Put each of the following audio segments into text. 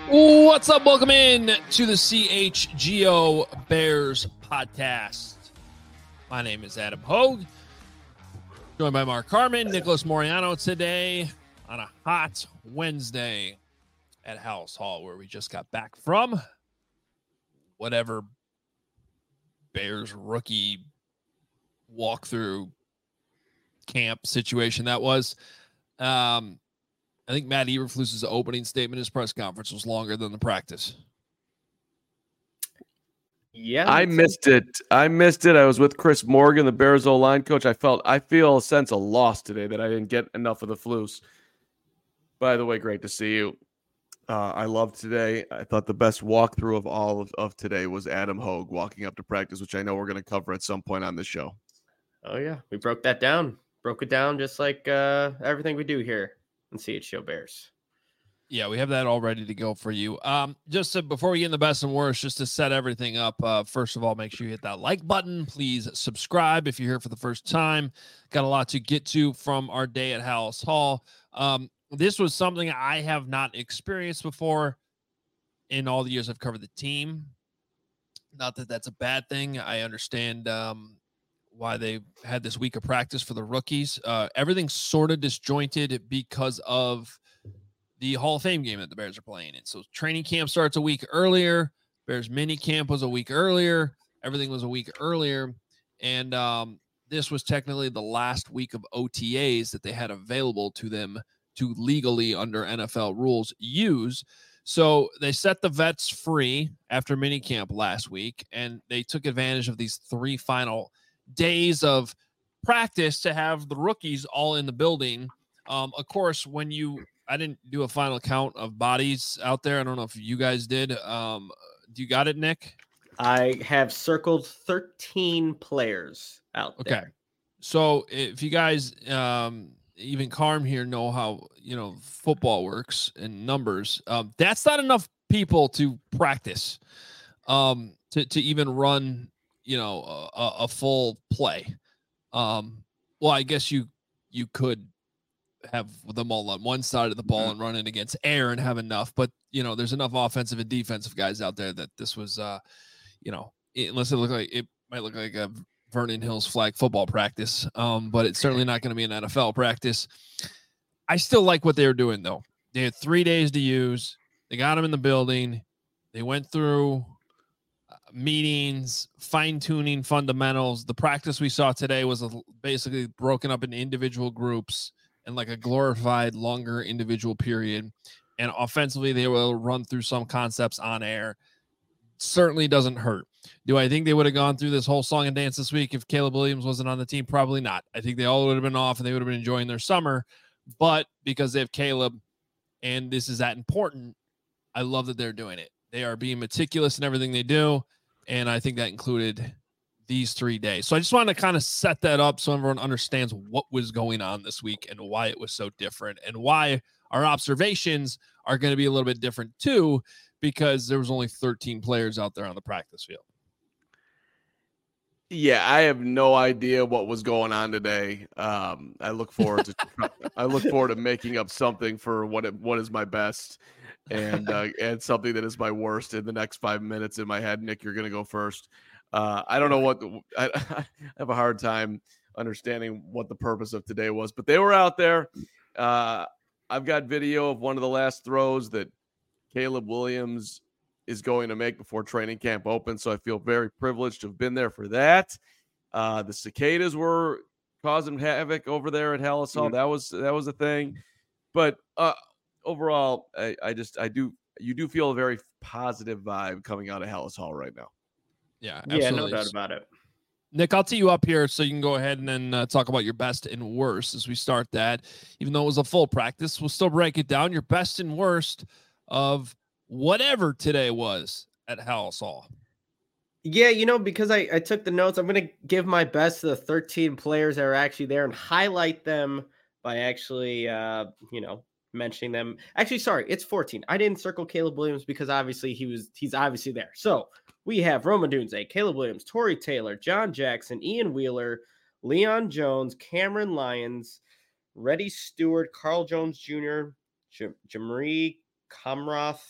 What's up? Welcome in to the CHGO Bears podcast. My name is Adam Hogue, joined by Mark Carman, Nicholas Moriano today on a hot Wednesday at Halas Hall, where we just got back from whatever Bears rookie walkthrough camp situation that was. I think Matt Eberflus's opening statement, his press conference, was longer than the practice. Yeah, I missed it. I was with Chris Morgan, the Bears O-line coach. I feel a sense of loss today that I didn't get enough of the Flus. By the way, great to see you. I loved today. I thought the best walkthrough of all of today was Adam Hogue walking up to practice, which I know we're going to cover at some point on this show. Oh, yeah. We broke that down. Broke it down just like everything we do here on CHGO Bears. Yeah, we have that all ready to go for you. Before we get in the best and worst, just to set everything up, first of all, make sure you hit that like button. Please subscribe if you're here for the first time. Got a lot to get to from our day at Halas Hall. This was something I have not experienced before in all the years I've covered the team. Not that that's a bad thing. I understand why they had this week of practice for the rookies. Everything's sort of disjointed because of the Hall of Fame game that the Bears are playing in. So training camp starts a week earlier. Bears mini camp was a week earlier. Everything was a week earlier. And this was technically the last week of OTAs that they had available to them to legally, under NFL rules, use. So they set the vets free after mini camp last week, and they took advantage of these 3 final days of practice to have the rookies all in the building. Of course, I didn't do a final count of bodies out there. I don't know if you guys did. Do you got it, Nick? I have circled 13 players out there. Okay. So if you guys, even Carm here, know how, football works and numbers, that's not enough people to practice, to even run, a full play. Well, I guess you could have them all on one side of the ball and run it against air and have enough, but there's enough offensive and defensive guys out there that this was, unless it might look like a Vernon Hills flag football practice, but it's certainly not going to be an NFL practice. I still like what they were doing, though. They had 3 days to use. They got them in the building. They went through meetings, fine-tuning fundamentals. The practice we saw today was basically broken up into individual groups and like a glorified longer individual period. And offensively, they will run through some concepts on air. Certainly doesn't hurt. Do I think they would have gone through this whole song and dance this week if Caleb Williams wasn't on the team? Probably not. I think they all would have been off and they would have been enjoying their summer. But because they have Caleb and this is that important, I love that they're doing it. They are being meticulous in everything they do. And I think that included these 3 days. So I just wanted to kind of set that up so everyone understands what was going on this week and why it was so different and why our observations are going to be a little bit different too, because there was only 13 players out there on the practice field. Yeah, I have no idea what was going on today. I look forward to making up something for what is my best and something that is my worst in the next 5 minutes in my head. Nick, you're going to go first. I don't know I have a hard time understanding what the purpose of today was, but they were out there. I've got video of one of the last throws that Caleb Williams is going to make before training camp opens. So I feel very privileged to have been there for that. The cicadas were causing havoc over there at Halas Hall. That was a thing. But overall, you do feel a very positive vibe coming out of Halas Hall right now. Yeah, absolutely. Yeah, no doubt about it. Nick, I'll tee you up here so you can go ahead and then talk about your best and worst as we start that. Even though it was a full practice, we'll still break it down. Your best and worst of whatever today was at Halas Hall. Yeah, because I took the notes, I'm going to give my best to the 13 players that are actually there and highlight them by actually, mentioning them. Actually, sorry, it's 14. I didn't circle Caleb Williams because obviously he's obviously there. So we have Rome Odunze, Caleb Williams, Torrey Taylor, John Jackson, Ian Wheeler, Leon Jones, Cameron Lyons, Reddy Stewart, Carl Jones Jr., Jamari Kamroth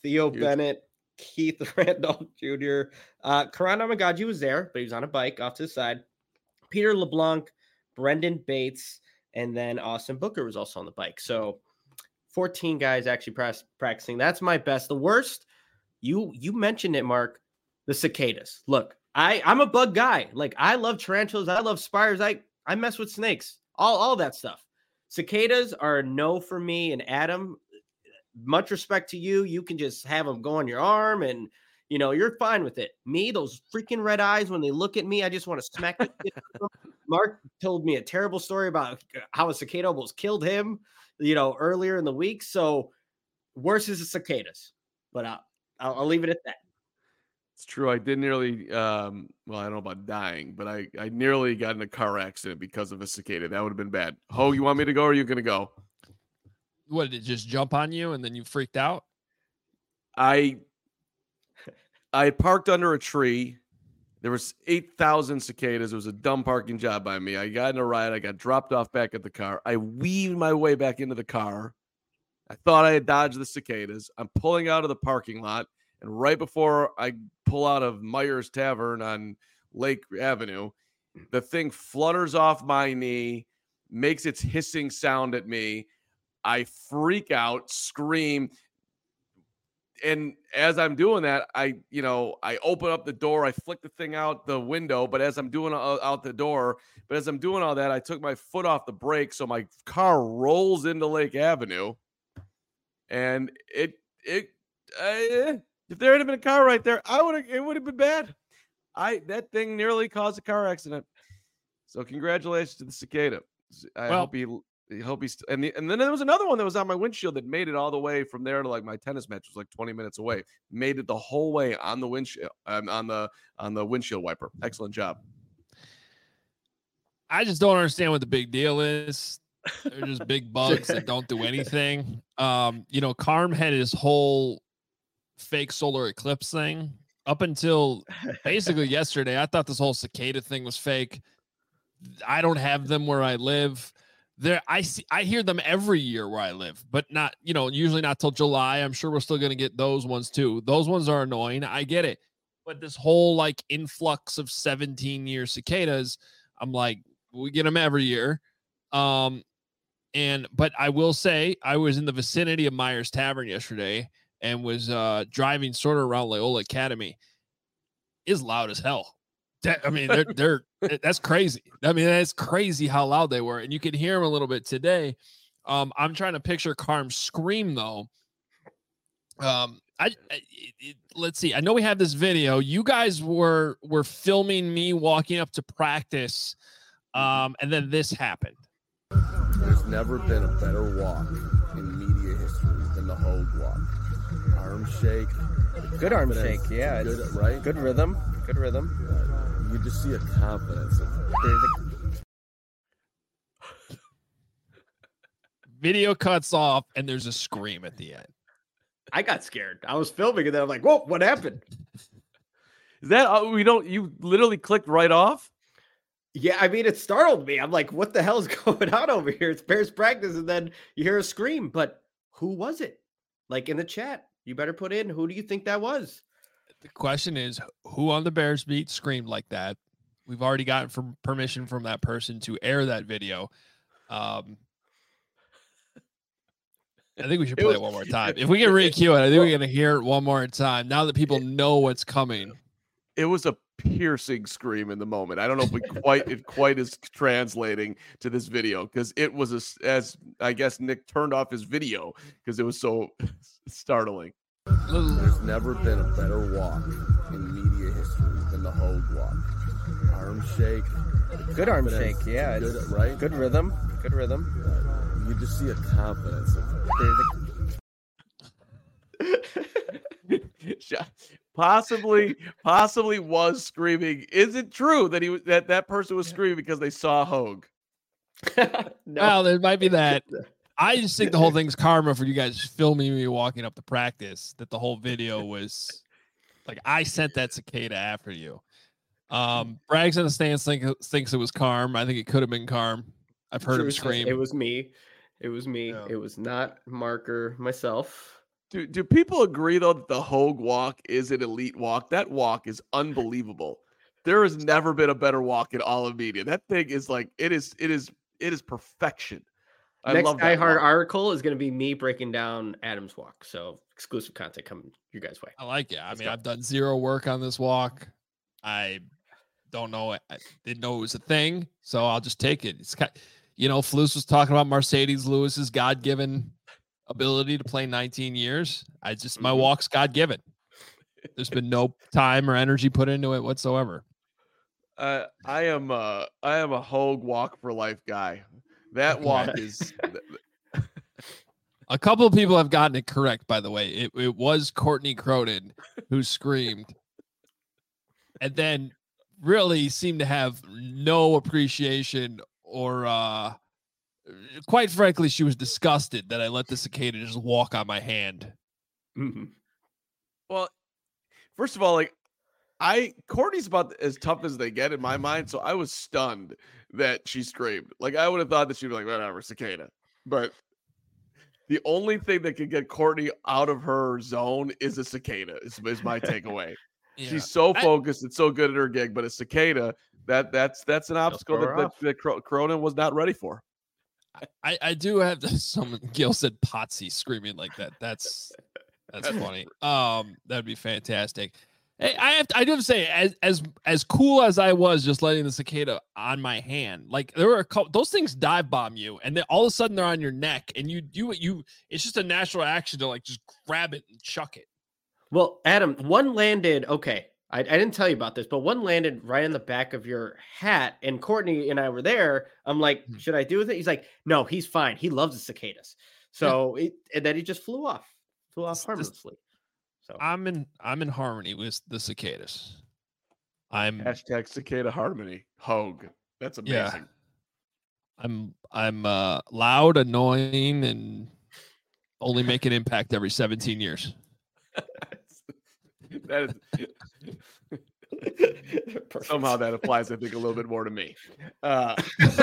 Theo Huge. Bennett, Keith Randolph Jr. Karan Amagaji was there, but he was on a bike off to the side. Peter LeBlanc, Brendan Bates, and then Austin Booker was also on the bike. So 14 guys actually practicing. That's my best. The worst, you mentioned it, Mark, the cicadas. Look, I'm a bug guy. Like, I love tarantulas. I love spiders. I mess with snakes, all that stuff. Cicadas are a no for me. And Adam, much respect to you. You can just have them go on your arm and, you know, you're fine with it. Me, those freaking red eyes, when they look at me, I just want to smack the shit out of them. Mark told me a terrible story about how a cicada almost killed him, you know, earlier in the week. So worse is the cicadas, but I'll leave it at that. It's true. I did nearly, well, I don't know about dying, but I nearly got in a car accident because of a cicada. That would have been bad. Ho, you want me to go or are you going to go? What, did it just jump on you and then you freaked out? I parked under a tree. There was 8,000 cicadas. It was a dumb parking job by me. I got in a ride. I got dropped off back at the car. I weaved my way back into the car. I thought I had dodged the cicadas. I'm pulling out of the parking lot. And right before I pull out of Myers Tavern on Lake Avenue, the thing flutters off my knee, makes its hissing sound at me. I freak out, scream. And as I'm doing that, I open up the door, I flick the thing out the window, but as I'm doing out the door, but as I'm doing all that, I took my foot off the brake, so my car rolls into Lake Avenue. And if there had been a car right there, it would have been bad. That thing nearly caused a car accident. So congratulations to the cicada. I hope he's and then there was another one that was on my windshield that made it all the way from there to like my tennis match was like 20 minutes away. Made it the whole way on the windshield on the windshield wiper. Excellent job. I just don't understand what the big deal is. They're just big bugs that don't do anything. Carm had his whole fake solar eclipse thing up until basically yesterday. I thought this whole cicada thing was fake. I don't have them where I live. I hear them every year where I live, but not, usually not till July. I'm sure we're still going to get those ones too. Those ones are annoying. I get it. But this whole like influx of 17-year cicadas, I'm like, we get them every year. But I will say I was in the vicinity of Myers Tavern yesterday and was driving sort of around Loyola Academy. It's loud as hell. They're that's crazy. That's crazy how loud they were, and you can hear them a little bit today. I'm trying to picture Carm's scream though. Let's see. I know we have this video. You guys were filming me walking up to practice, and then this happened. There's never been a better walk in media history than the Hogue walk. Arm shake. Good arm shake, yeah. Good, right? Good rhythm. Good rhythm. Right. You just see a confidence. Video cuts off, and there's a scream at the end. I got scared. I was filming, and then I'm like, whoa, what happened? Is that you literally clicked right off? Yeah, it startled me. I'm like, what the hell is going on over here? It's Bears practice, and then you hear a scream. But who was it? Like in the chat, you better put in, who do you think that was? The question is, who on the Bears beat screamed like that? We've already gotten permission from that person to air that video. I think we should play it one more time. If we can re-cue it, I think we're going to hear it one more time now that people know what's coming. It was a piercing scream in the moment. I don't know if it quite is translating to this video because it was as I guess Nick turned off his video because it was so startling. There's never been a better walk in media history than the Hogue walk. Arm shake. Good arm shake, yeah. Good, right? Good rhythm. Good rhythm. Right. You just see a confidence. Possibly was screaming. Is it true that that person was screaming because they saw Hogue? No. Well, there might be that. I just think the whole thing's karma for you guys filming me walking up to practice. That the whole video was like I sent that cicada after you. Braggs in the stands thinks it was Carm. I think it could have been Carm. I've heard him scream. It was me. Yeah. It was not Mark or myself. Do people agree though that the Hogue walk is an elite walk? That walk is unbelievable. There has never been a better walk in all of media. That thing is like it is perfection. I Next love Die that Hard walk. article is going to be me breaking down Adam's walk. So exclusive content coming your guys' way. I like it. Let's I've go. done zero work on this walk. I don't know. I didn't know it was a thing, so I'll just take it. It's kind, Flus was talking about Mercedes Lewis's God-given ability to play 19 years. My walk's God-given. There's been no time or energy put into it whatsoever. I am a Hogue walk for life guy. That walk is. A couple of people have gotten it correct, by the way. It was Courtney Cronin who screamed, and then really seemed to have no appreciation or, quite frankly, she was disgusted that I let the cicada just walk on my hand. Mm-hmm. Well, first of all, Courtney's about as tough as they get in my mind, so I was stunned that she screamed. Like, I would have thought that she'd be like, whatever, cicada. But the only thing that could get Courtney out of her zone is a cicada, is my takeaway. Yeah. She's so focused and so good at her gig, but a cicada, that's an obstacle that Cronin was not ready for. I do have someone, Gil said Potsy screaming like that. That's funny. That'd be fantastic. Hey, I do have to say, as cool as I was just letting the cicada on my hand, like there were those things dive bomb you, and then all of a sudden they're on your neck, and you it's just a natural action to like just grab it and chuck it. Well, Adam, one landed. Okay, I didn't tell you about this, but one landed right on the back of your hat, and Courtney and I were there. I'm like, should I do with it? He's like, no, he's fine. He loves the cicadas. So and then he just flew off harmlessly. So I'm in harmony with the cicadas. I'm # cicada harmony. Hogue. That's amazing. Yeah. I'm loud, annoying, and only make an impact every 17 years. That is somehow that applies, I think, a little bit more to me. I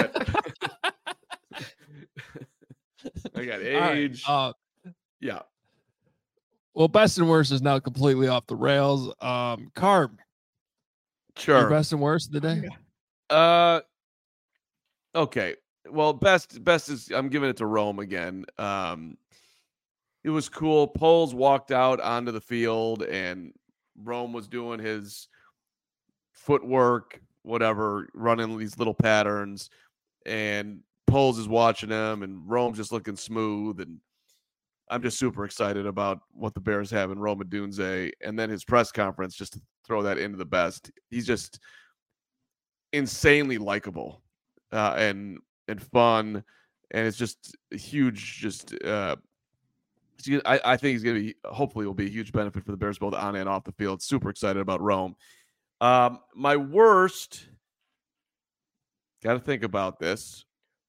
got age. Right. Yeah. Well, best and worst is now completely off the rails. Carb. Sure. Your best and worst of the day? Okay. Well, best is I'm giving it to Rome again. It was cool. Poles walked out onto the field and Rome was doing his footwork, whatever, running these little patterns, and Poles is watching him and Rome's just looking smooth, and I'm just super excited about what the Bears have in Rome Odunze, and then his press conference, just to throw that into the best. He's just insanely likable and fun, and it's just a huge. I think he's going to be. Hopefully, will be a huge benefit for the Bears both on and off the field. Super excited about Rome. My worst. Got to think about this.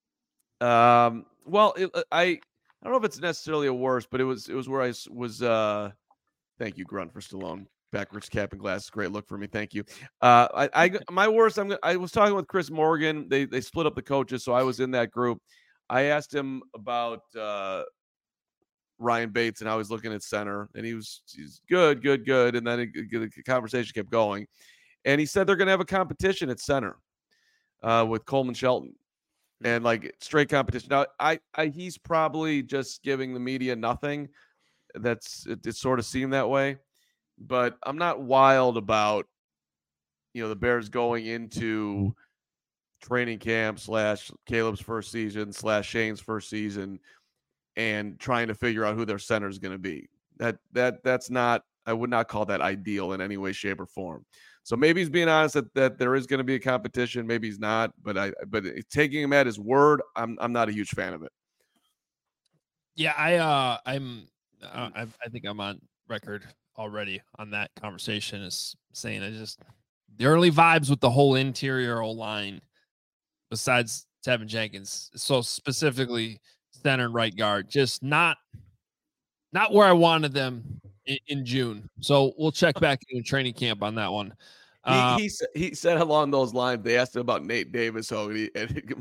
Well, I don't know if it's necessarily a worst, but it was where I was. Thank you, Grunt, for Stallone. Backwards cap and glasses, great look for me. Thank you. My worst. I was talking with Chris Morgan. They split up the coaches, so I was in that group. I asked him about Ryan Bates and how he's looking at center, and he's good, and then the conversation kept going, and he said they're going to have a competition at center with Coleman Shelton. And like straight competition. Now, he's probably just giving the media nothing. It sort of seemed that way, but I'm not wild about, the Bears going into training camp / Caleb's first season / Shane's first season and trying to figure out who their center is going to be. That's not. I would not call that ideal in any way, shape, or form. So maybe he's being honest that there is going to be a competition. Maybe he's not, but taking him at his word, I'm not a huge fan of it. Yeah, I think I'm on record already on that conversation as saying the early vibes with the whole interior O-line, besides Tevin Jenkins, so specifically center and right guard, just not where I wanted them in June. So we'll check back in training camp on that one. He said along those lines, they asked him about Nate Davis, and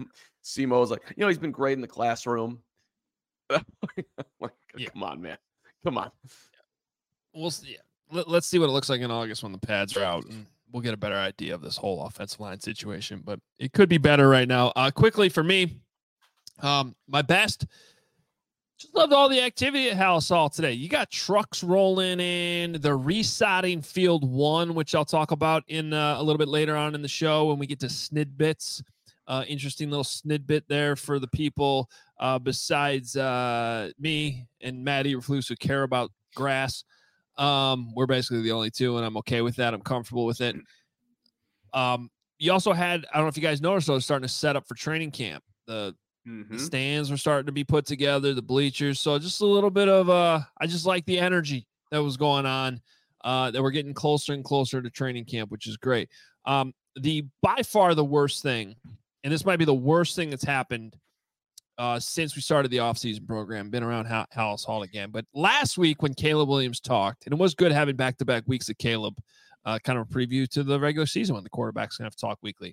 Simo was like, he's been great in the classroom. Come on, man. Come on. We'll see. Let's see what it looks like in August when the pads are out, and we'll get a better idea of this whole offensive line situation. But it could be better right now. Quickly for me, my best. Just loved all the activity at Halisol today. You got trucks rolling in. They're resodding Field 1, which I'll talk about in a little bit later on in the show when we get to snidbits. Interesting little snidbit there for the people besides me and Maddie Reflus who care about grass. We're basically the only two, and I'm okay with that. I'm comfortable with it. You also had, I don't know if you guys noticed, I was starting to set up for training camp. The stands were starting to be put together, the bleachers. So just a little bit of I just like the energy that was going on, that we're getting closer and closer to training camp, which is great. The by far the worst thing, and this might be the worst thing that's happened since we started the offseason program, been around Halisol again. But last week when Caleb Williams talked, and it was good having back-to-back weeks of Caleb, kind of a preview to the regular season when the quarterback's going to have to talk weekly.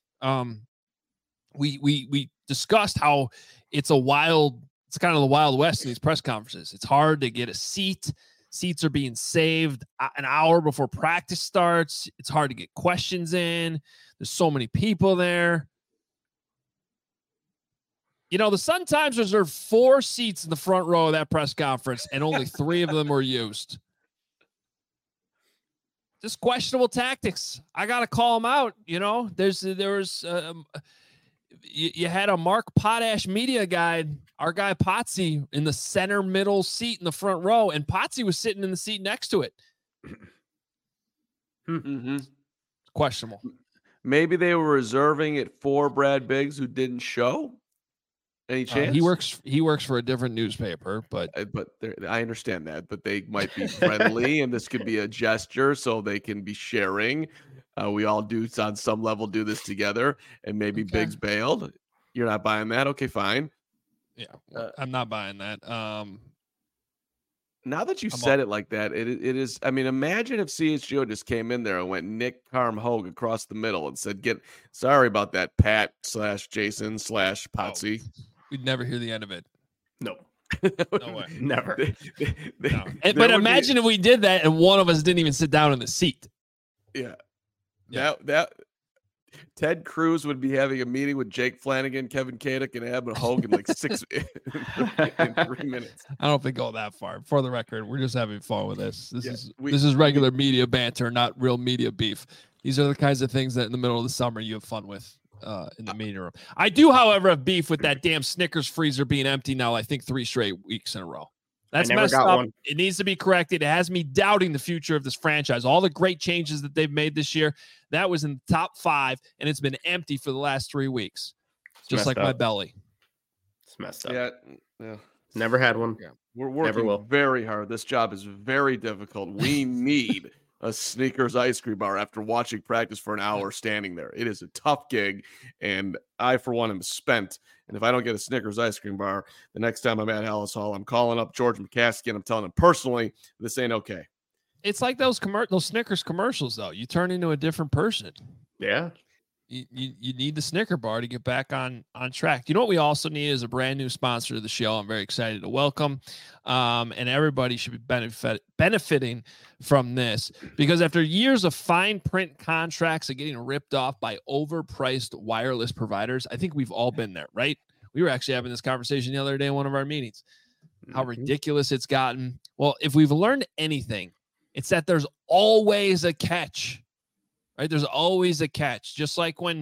We discussed how it's kind of the Wild West in these press conferences. It's hard to get a seat. Seats are being saved an hour before practice starts. It's hard to get questions in. There's so many people there. You know, the Sun-Times reserved 4 seats in the front row of that press conference, and only 3 of them were used. Just questionable tactics. I got to call them out. You know, you had a Mark Potash media guide, our guy Potsy, in the center middle seat in the front row, and Potsy was sitting in the seat next to it. Questionable. Maybe they were reserving it for Brad Biggs, who didn't show. Any chance? He works for a different newspaper, but I understand that. But they might be friendly, and this could be a gesture, so they can be sharing. We all do on some level do this together, and maybe Biggs bailed. You're not buying that? Okay, fine. Yeah, I'm not buying that. Now that you said it like that, it is. I mean, imagine if CHGO just came in there and went Nick Carm-Hogue across the middle and said, sorry about that, Pat/Jason/Potsy. Oh, we'd never hear the end of it. No. No way. Never. No. But imagine if we did that and one of us didn't even sit down in the seat. Yeah. That Ted Cruz would be having a meeting with Jake Flanagan, Kevin Kadick, and Abner Hogan like 6 in 3 minutes. I don't think go that far. For the record, we're just having fun with this. This is regular media banter, not real media beef. These are the kinds of things that in the middle of the summer you have fun with in the meeting room. I do, however, have beef with that damn Snickers freezer being empty now, I think 3 straight weeks in a row. That's messed up. One. It needs to be corrected. It has me doubting the future of this franchise. All the great changes that they've made this year, that was in the top 5, and it's been empty for the last 3 weeks. Just like my belly. It's messed up. Yeah. Never had one. Yeah. We're working very hard. This job is very difficult. We need a Snickers ice cream bar after watching practice for an hour standing there. It is a tough gig, and I, for one, am spent. And if I don't get a Snickers ice cream bar, the next time I'm at Halisol, I'm calling up George McCaskey and I'm telling him personally, this ain't okay. It's like those Snickers commercials, though. You turn into a different person. Yeah. You need the Snicker bar to get back on track. You know what we also need is a brand new sponsor to the show. I'm very excited to welcome, and everybody should be benefiting from this, because after years of fine print contracts and getting ripped off by overpriced wireless providers, I think we've all been there, right? We were actually having this conversation the other day in one of our meetings, how ridiculous it's gotten. Well, if we've learned anything, it's that there's always a catch. Right, there's always a catch. Just like when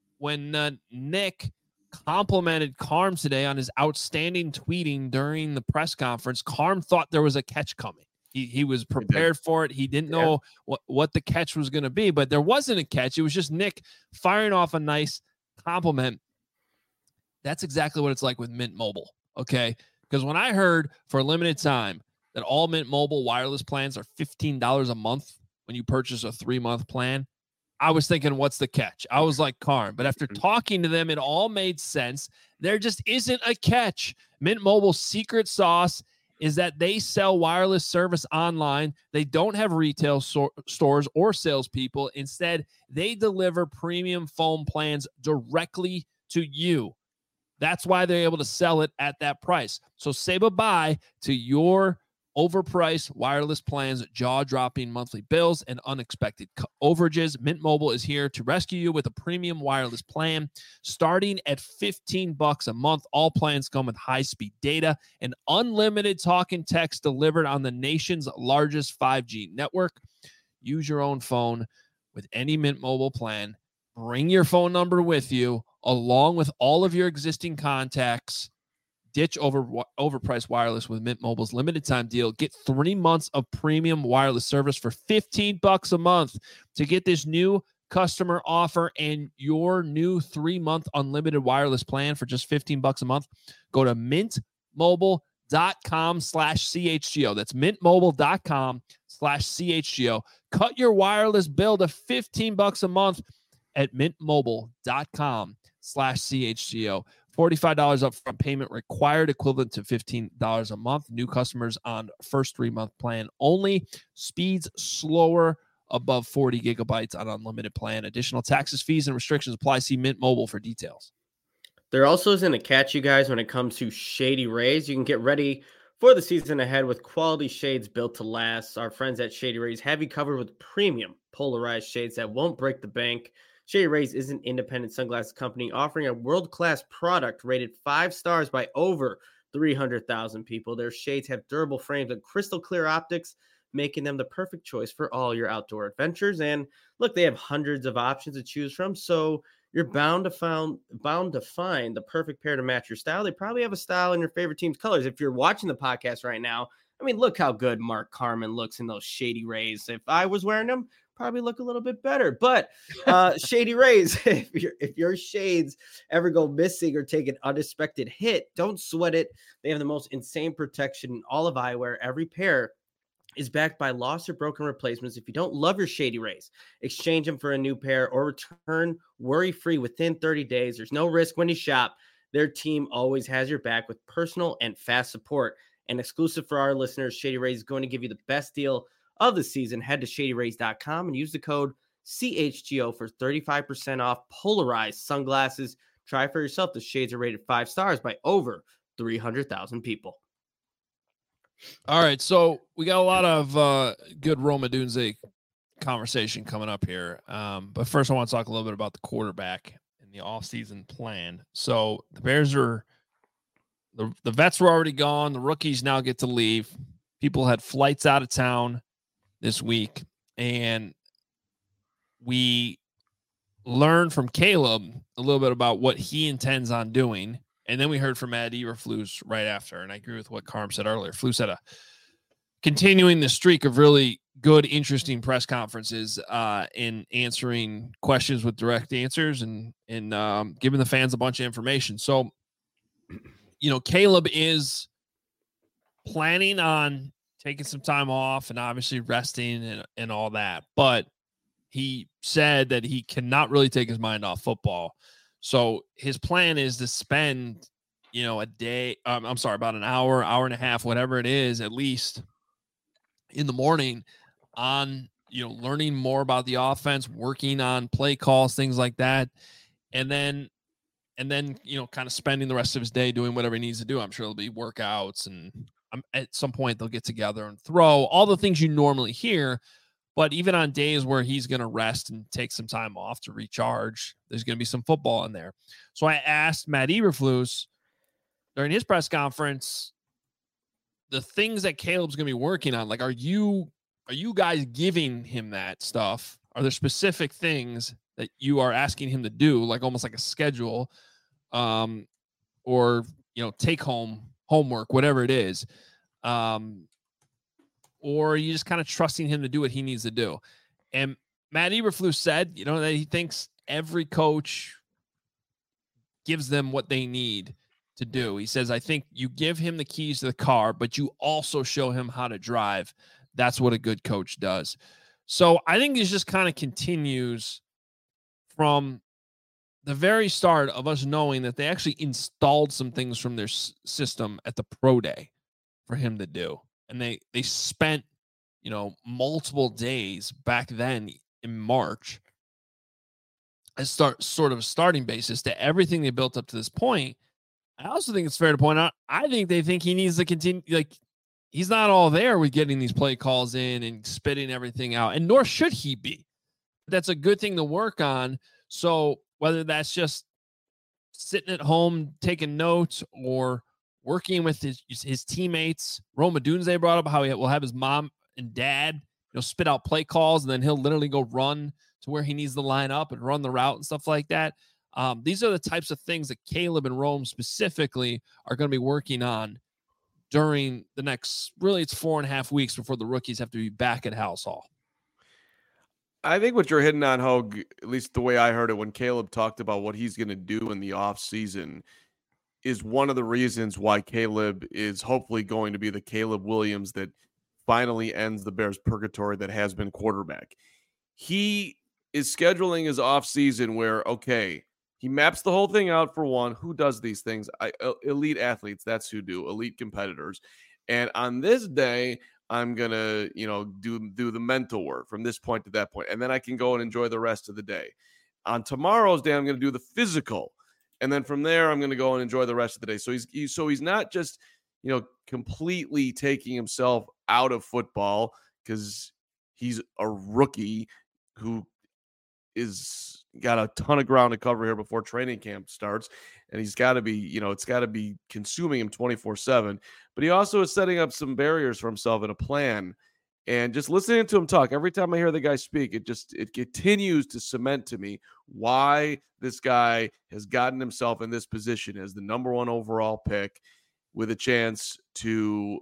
Nick complimented Carm today on his outstanding tweeting during the press conference, Carm thought there was a catch coming. He was prepared for it. He didn't know what the catch was going to be, but there wasn't a catch. It was just Nick firing off a nice compliment. That's exactly what it's like with Mint Mobile, okay? Because when I heard for a limited time that all Mint Mobile wireless plans are $15 a month when you purchase a 3-month plan, I was thinking, what's the catch? I was like, Carm. But after talking to them, it all made sense. There just isn't a catch. Mint Mobile's secret sauce is that they sell wireless service online. They don't have retail stores or salespeople. Instead, they deliver premium phone plans directly to you. That's why they're able to sell it at that price. So say bye-bye to your overpriced wireless plans, jaw-dropping monthly bills, and unexpected overages. Mint Mobile is here to rescue you with a premium wireless plan starting at $15 a month. All plans come with high-speed data and unlimited talk and text delivered on the nation's largest 5G network. Use your own phone with any Mint Mobile plan. Bring your phone number with you along with all of your existing contacts. Ditch overpriced wireless with Mint Mobile's limited time deal. Get 3 months of premium wireless service for $15 a month. To get this new customer offer and your new 3-month unlimited wireless plan for just $15 a month, go to mintmobile.com/CHGO. That's mintmobile.com/CHGO. Cut your wireless bill to $15 a month at mintmobile.com/CHGO. $45 upfront payment required, equivalent to $15 a month. New customers on first 3-month plan only. Speeds slower above 40 gigabytes on unlimited plan. Additional taxes, fees, and restrictions apply. See Mint Mobile for details. There also isn't a catch, you guys, when it comes to Shady Rays. You can get ready for the season ahead with quality shades built to last. Our friends at Shady Rays have you covered with premium polarized shades that won't break the bank. Shady Rays is an independent sunglasses company offering a world-class product rated 5 stars by over 300,000 people. Their shades have durable frames and crystal clear optics, making them the perfect choice for all your outdoor adventures. And look, they have hundreds of options to choose from, so you're bound to find the perfect pair to match your style. They probably have a style in your favorite team's colors. If you're watching the podcast right now, I mean, look how good Mark Carman looks in those Shady Rays. If I was wearing them, probably look a little bit better. But Shady Rays, if your shades ever go missing or take an unexpected hit, don't sweat it. They have the most insane protection in all of eyewear. Every pair is backed by lost or broken replacements. If you don't love your Shady Rays, exchange them for a new pair or return worry-free within 30 days. There's no risk when you shop. Their team always has your back with personal and fast support. And exclusive for our listeners, Shady Rays is going to give you the best deal of the season. Head to shadyrays.com and use the code CHGO for 35% off polarized sunglasses. Try for yourself. The shades are rated 5 stars by over 300,000 people. All right, so we got a lot of good Rome Odunze conversation coming up here. But first, I want to talk a little bit about the quarterback and the offseason plan. So the Bears are the vets were already gone. The rookies now get to leave. People had flights out of town this week, and we learned from Caleb a little bit about what he intends on doing. And then we heard from Matt Eberflus right after. And I agree with what Carm said earlier. Flus had continuing the streak of really good, interesting press conferences in answering questions with direct answers and giving the fans a bunch of information. So, Caleb is planning on taking some time off and obviously resting and all that. But he said that he cannot really take his mind off football. So his plan is to spend, a day, about an hour and a half, whatever it is, at least in the morning on, learning more about the offense, working on play calls, things like that. And then, kind of spending the rest of his day doing whatever he needs to do. I'm sure there'll be workouts and at some point they'll get together and throw all the things you normally hear. But even on days where he's going to rest and take some time off to recharge, there's going to be some football in there. So I asked Matt Eberflus during his press conference, the things that Caleb's going to be working on, like, are you guys giving him that stuff? Are there specific things that you are asking him to do, like almost like a schedule, or, take home homework, whatever it is? Or are you just kind of trusting him to do what he needs to do? And Matt Eberflus said, that he thinks every coach gives them what they need to do. He says, I think you give him the keys to the car, but you also show him how to drive. That's what a good coach does. So I think this just kind of continues from the very start of us knowing that they actually installed some things from their system at the pro day for him to do. And they spent, multiple days back then in March as sort of a starting basis to everything they built up to this point. I also think it's fair to point out, I think they think he needs to continue, he's not all there with getting these play calls in and spitting everything out, and nor should he be. That's a good thing to work on. So whether that's just sitting at home taking notes or working with his teammates, Rome Odunze brought up how he will have his mom and dad, spit out play calls, and then he'll literally go run to where he needs to line up and run the route and stuff like that. These are the types of things that Caleb and Rome specifically are going to be working on during the next, really, it's 4.5 weeks before the rookies have to be back at Halas Hall. I think what you're hitting on, Hogue, at least the way I heard it when Caleb talked about what he's going to do in the offseason, is one of the reasons why Caleb is hopefully going to be the Caleb Williams that finally ends the Bears' purgatory that has been quarterback. He is scheduling his offseason where, okay, he maps the whole thing out for one. Who does these things? Elite athletes, that's who do. Elite competitors. And on this day, I'm going to, do the mental work from this point to that point. And then I can go and enjoy the rest of the day. On tomorrow's day, I'm going to do the physical. And then from there, I'm going to go and enjoy the rest of the day. So he's not just, completely taking himself out of football because he's a rookie who is got a ton of ground to cover here before training camp starts. And he's got to be, it's got to be consuming him 24/7. But he also is setting up some barriers for himself in a plan. And just listening to him talk, every time I hear the guy speak, it continues to cement to me why this guy has gotten himself in this position as the number 1 overall pick with a chance to,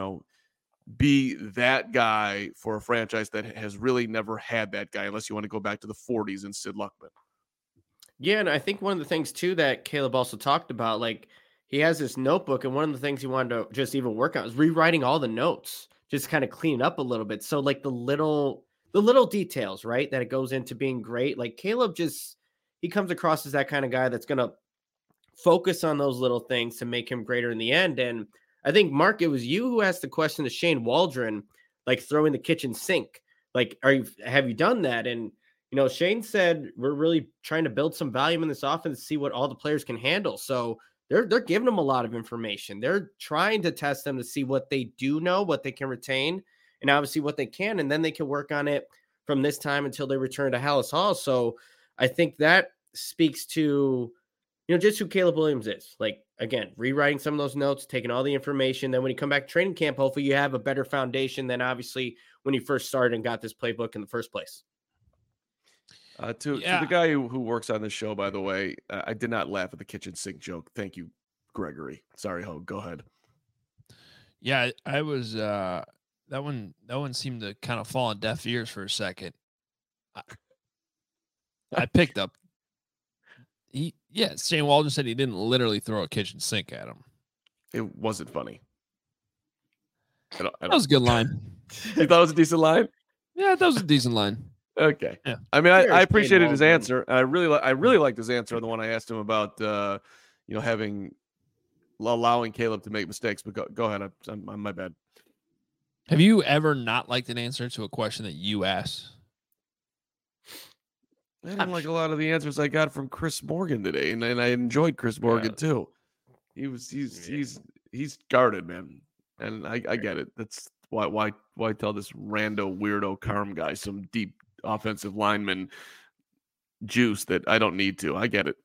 be that guy for a franchise that has really never had that guy, unless you want to go back to the 40s and Sid Luckman. Yeah, and I think one of the things, too, that Caleb also talked about, like, he has this notebook, and one of the things he wanted to just even work on is rewriting all the notes, just kind of clean up a little bit. So, like, the little details, right, that it goes into being great. Like, Caleb he comes across as that kind of guy that's going to focus on those little things to make him greater in the end. And I think, Mark, it was you who asked the question to Shane Waldron, like throwing the kitchen sink. Like, have you done that? And, Shane said, we're really trying to build some volume in this offense to see what all the players can handle. So they're giving them a lot of information. They're trying to test them to see what they do know, what they can retain, and obviously what they can. And then they can work on it from this time until they return to Halas Hall. So I think that speaks to, just who Caleb Williams is. Like, again, rewriting some of those notes, taking all the information. Then when you come back to training camp, hopefully you have a better foundation than obviously when you first started and got this playbook in the first place. To the guy who works on this show, by the way, I did not laugh at the kitchen sink joke. Thank you, Gregory. Sorry, Hogue. Go ahead. Yeah, I was that one seemed to kind of fall on deaf ears for a second. I picked up. Shane Waldron said he didn't literally throw a kitchen sink at him. It wasn't funny. That was a good line. You thought it was a decent line? Yeah, that was a decent line. Okay. Yeah. I mean, I appreciated his answer. I really liked his answer on the one I asked him about, allowing Caleb to make mistakes. But go ahead. I'm my bad. Have you ever not liked an answer to a question that you asked? I didn't like a lot of the answers I got from Chris Morgan today, and I enjoyed Chris Morgan too. He's guarded, man, and I get it. That's why tell this rando weirdo Carm guy some deep offensive lineman juice that I don't need to. I get it.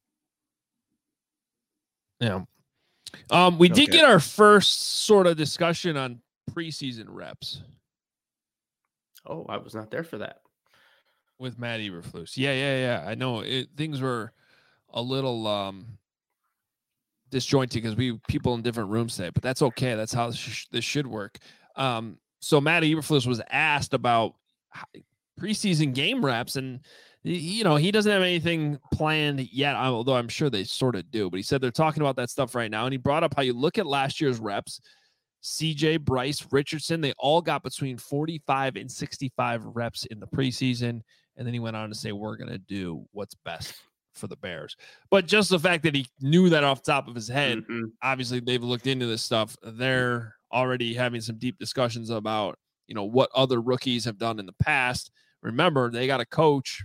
Yeah. We did get our first sort of discussion on preseason reps. Oh, I was not there for that. With Matt Eberflus. Yeah. I know things were a little disjointed because people in different rooms today, but that's okay. That's how this should work. So Matt Eberflus was asked about preseason game reps, and he doesn't have anything planned yet, although I'm sure they sort of do. But he said they're talking about that stuff right now, and he brought up how you look at last year's reps. CJ, Bryce, Richardson, they all got between 45 and 65 reps in the preseason. And then he went on to say, we're going to do what's best for the Bears. But just the fact that he knew that off the top of his head, obviously they've looked into this stuff. They're already having some deep discussions about, what other rookies have done in the past. Remember, they got a coach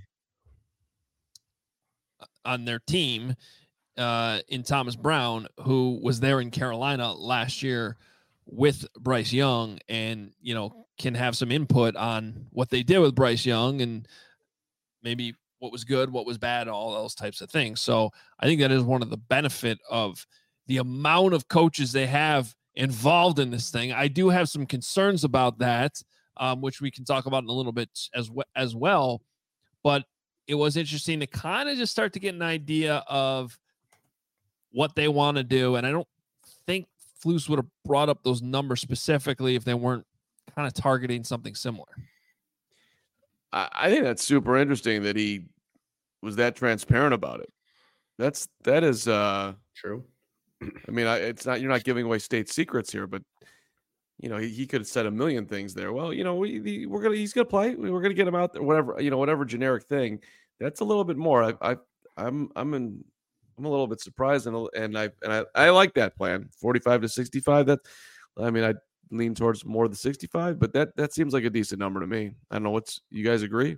on their team in Thomas Brown, who was there in Carolina last year with Bryce Young and, can have some input on what they did with Bryce Young and maybe what was good, what was bad, all those types of things. So I think that is one of the benefit of the amount of coaches they have involved in this thing. I do have some concerns about that, which we can talk about in a little bit as well. But it was interesting to kind of just start to get an idea of what they want to do. And I don't think Flus would have brought up those numbers specifically if they weren't kind of targeting something similar. I think that's super interesting that he was that transparent about it. That is true. I mean, it's not, you're not giving away state secrets here, but he could have said a million things there. Well, he's gonna play. We're gonna get him out there. Whatever generic thing. That's a little bit more. I'm a little bit surprised, and I like that plan. 45 to 65. I lean towards more the 65, but that seems like a decent number to me. I don't know. You guys agree?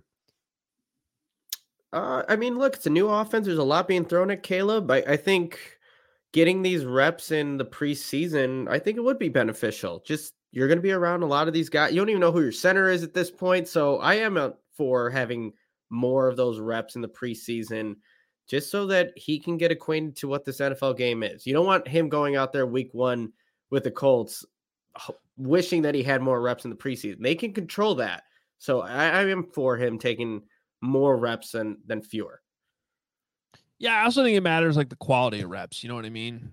Look, it's a new offense. There's a lot being thrown at Caleb. I think getting these reps in the preseason, I think it would be beneficial. Just you're going to be around a lot of these guys. You don't even know who your center is at this point. So I am for having more of those reps in the preseason, just so that he can get acquainted to what this NFL game is. You don't want him going out there week 1 with the Colts, wishing that he had more reps in the preseason. They can control that. So I am for him taking more reps than fewer. Yeah, I also think it matters like the quality of reps. You know what I mean?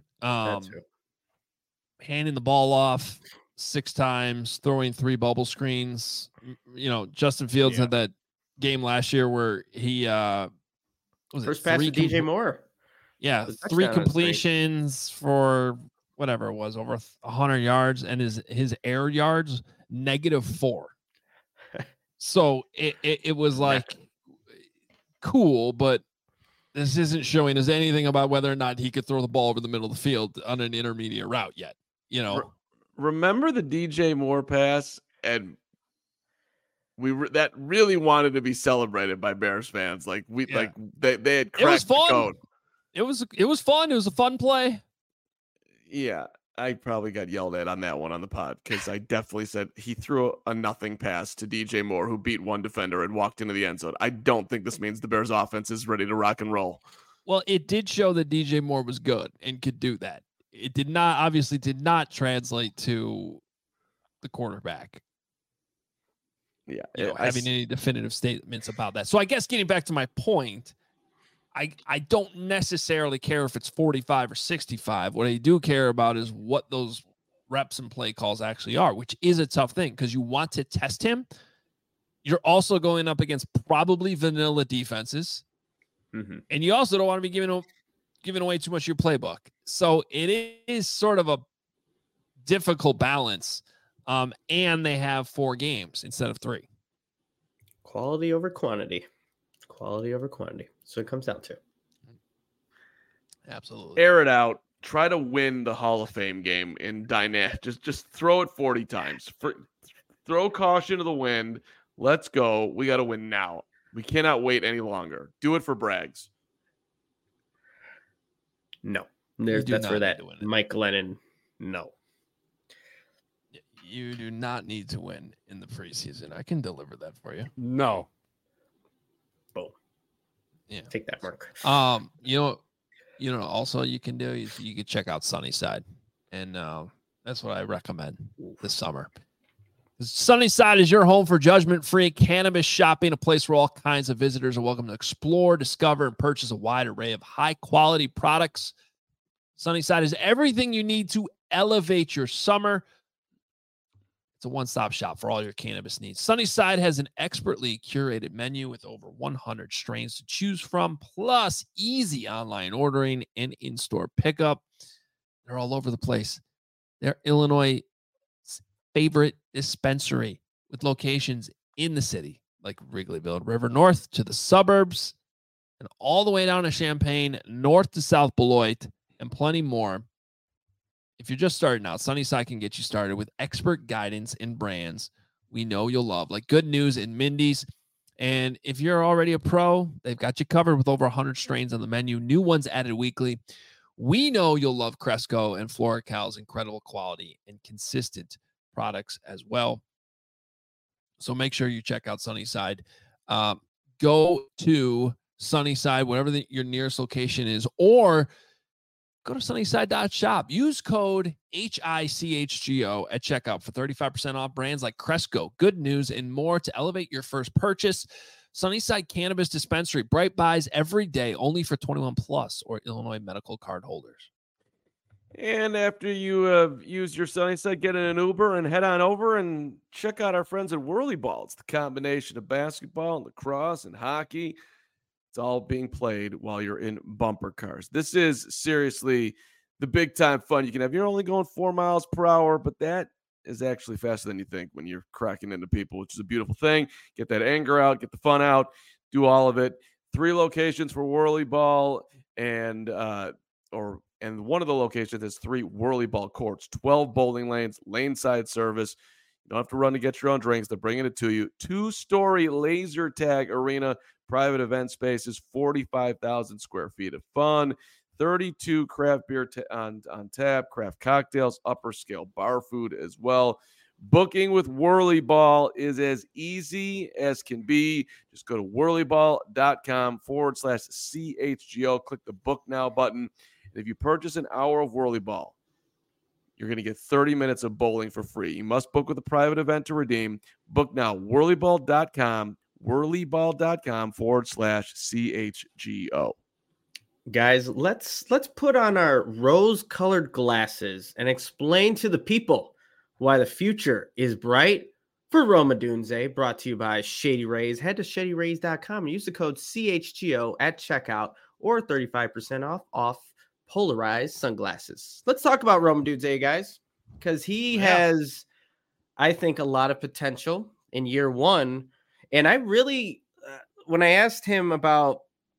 Handing the ball off 6 times, throwing 3 bubble screens. Justin Fields had that game last year where he first pass to DJ Moore. Yeah, 3 completions for whatever it was, over 100 yards, and his air yards -4. So it was like cool, but this isn't showing us anything about whether or not he could throw the ball over the middle of the field on an intermediate route yet. Remember the DJ Moore pass, and that really wanted to be celebrated by Bears fans. Like they had cracked the code. It was fun. It was a fun play. Yeah, I probably got yelled at on that one on the pod because I definitely said he threw a nothing pass to DJ Moore, who beat one defender and walked into the end zone. I don't think this means the Bears offense is ready to rock and roll. Well, it did show that DJ Moore was good and could do that. It did not translate to the quarterback. Yeah, having any definitive statements about that. So I guess getting back to my point, I don't necessarily care if it's 45 or 65. What I do care about is what those reps and play calls actually are, which is a tough thing because you want to test him. You're also going up against probably vanilla defenses. Mm-hmm. And you also don't want to be giving away too much of your playbook. So it is sort of a difficult balance. And they have 4 games instead of 3. Quality over quantity. Quality over quantity. So it comes down to. Absolutely. Air it out. Try to win the Hall of Fame game in dynamic. Just throw it 40 times. Throw caution to the wind. Let's go. We got to win now. We cannot wait any longer. Do it for Braggs. No. That's where that Mike Glennon. No. You do not need to win in the preseason. I can deliver that for you. No. Boom. Yeah. Take that, Mark. Also you can do, you can check out Sunnyside. And that's what I recommend this summer. Sunnyside is your home for judgment-free cannabis shopping, a place where all kinds of visitors are welcome to explore, discover, and purchase a wide array of high-quality products. Sunnyside is everything you need to elevate your summer. It's a one-stop shop for all your cannabis needs. Sunnyside has an expertly curated menu with over 100 strains to choose from, plus easy online ordering and in-store pickup. They're all over the place. They're Illinois' favorite dispensary with locations in the city, like Wrigleyville and River North to the suburbs and all the way down to Champaign, north to South Beloit, and plenty more. If you're just starting out, Sunnyside can get you started with expert guidance and brands we know you'll love, like Good News and Mindy's. And if you're already a pro, they've got you covered with over 100 strains on the menu, new ones added weekly. We know you'll love Cresco and Florical's incredible quality and consistent products as well. So make sure you check out Sunnyside. Go to Sunnyside, whatever your nearest location is, or go to sunnyside.shop. Use code HICHGO at checkout for 35% off brands like Cresco, Good News, and more to elevate your first purchase. Sunnyside Cannabis Dispensary, bright buys every day, only for 21 plus or Illinois medical card holders. And after you have used your Sunnyside, get in an Uber and head on over and check out our friends at Whirly Ball. It's the combination of basketball and lacrosse and hockey. It's all being played while you're in bumper cars. This is seriously the big time fun you can have. You're only going 4 miles per hour, but that is actually faster than you think when you're cracking into people, which is a beautiful thing. Get that anger out, get the fun out, do all of it. 3 locations for Whirly Ball, and one of the locations has 3 Whirly Ball courts, 12 bowling lanes, lane side service. You don't have to run to get your own drinks. They're bringing it to you. 2-story laser tag arena, private event spaces, 45,000 square feet of fun, 32 craft beer on tap, craft cocktails, upper scale bar food as well. Booking with Whirly Ball is as easy as can be. Just go to whirlyball.com/CHGO. Click the book now button. And if you purchase an hour of Whirly Ball, you're going to get 30 minutes of bowling for free. You must book with a private event to redeem. Book now, whirlyball.com/CHGO. Guys, let's put on our rose-colored glasses and explain to the people why the future is bright for Roma Dunze, brought to you by Shady Rays. Head to shadyrays.com and use the code CHGO at checkout or 35% off polarized sunglasses. Let's talk about Roma Dunze, guys, because he has, I think, a lot of potential in year one. And I really, when I asked him about,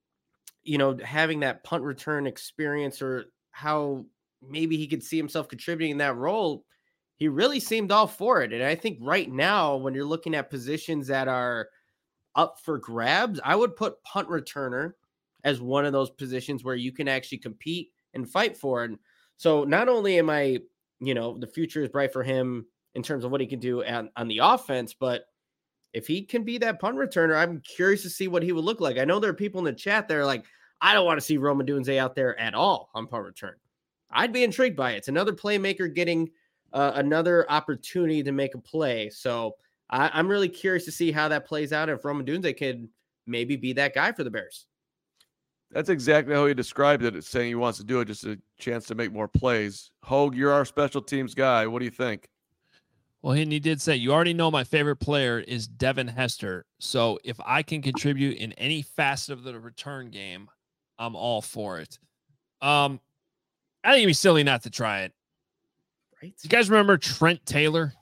having that punt return experience or how maybe he could see himself contributing in that role, he really seemed all for it. And I think right now, when you're looking at positions that are up for grabs, I would put punt returner as one of those positions where you can actually compete and fight for. And so not only am I, the future is bright for him in terms of what he can do on the offense, but if he can be that punt returner, I'm curious to see what he would look like. I know there are people in the chat that are like, I don't want to see Roma Dunze out there at all on punt return. I'd be intrigued by it. It's another playmaker getting another opportunity to make a play. So I'm really curious to see how that plays out. If Roma Dunze could maybe be that guy for the Bears. That's exactly how he described it. It's saying he wants to do it, just a chance to make more plays. Hogue, you're our special teams guy. What do you think? Well, and he did say, you already know my favorite player is Devin Hester. So if I can contribute in any facet of the return game, I'm all for it. I think it'd be silly not to try it. Right? You guys remember Trent Taylor?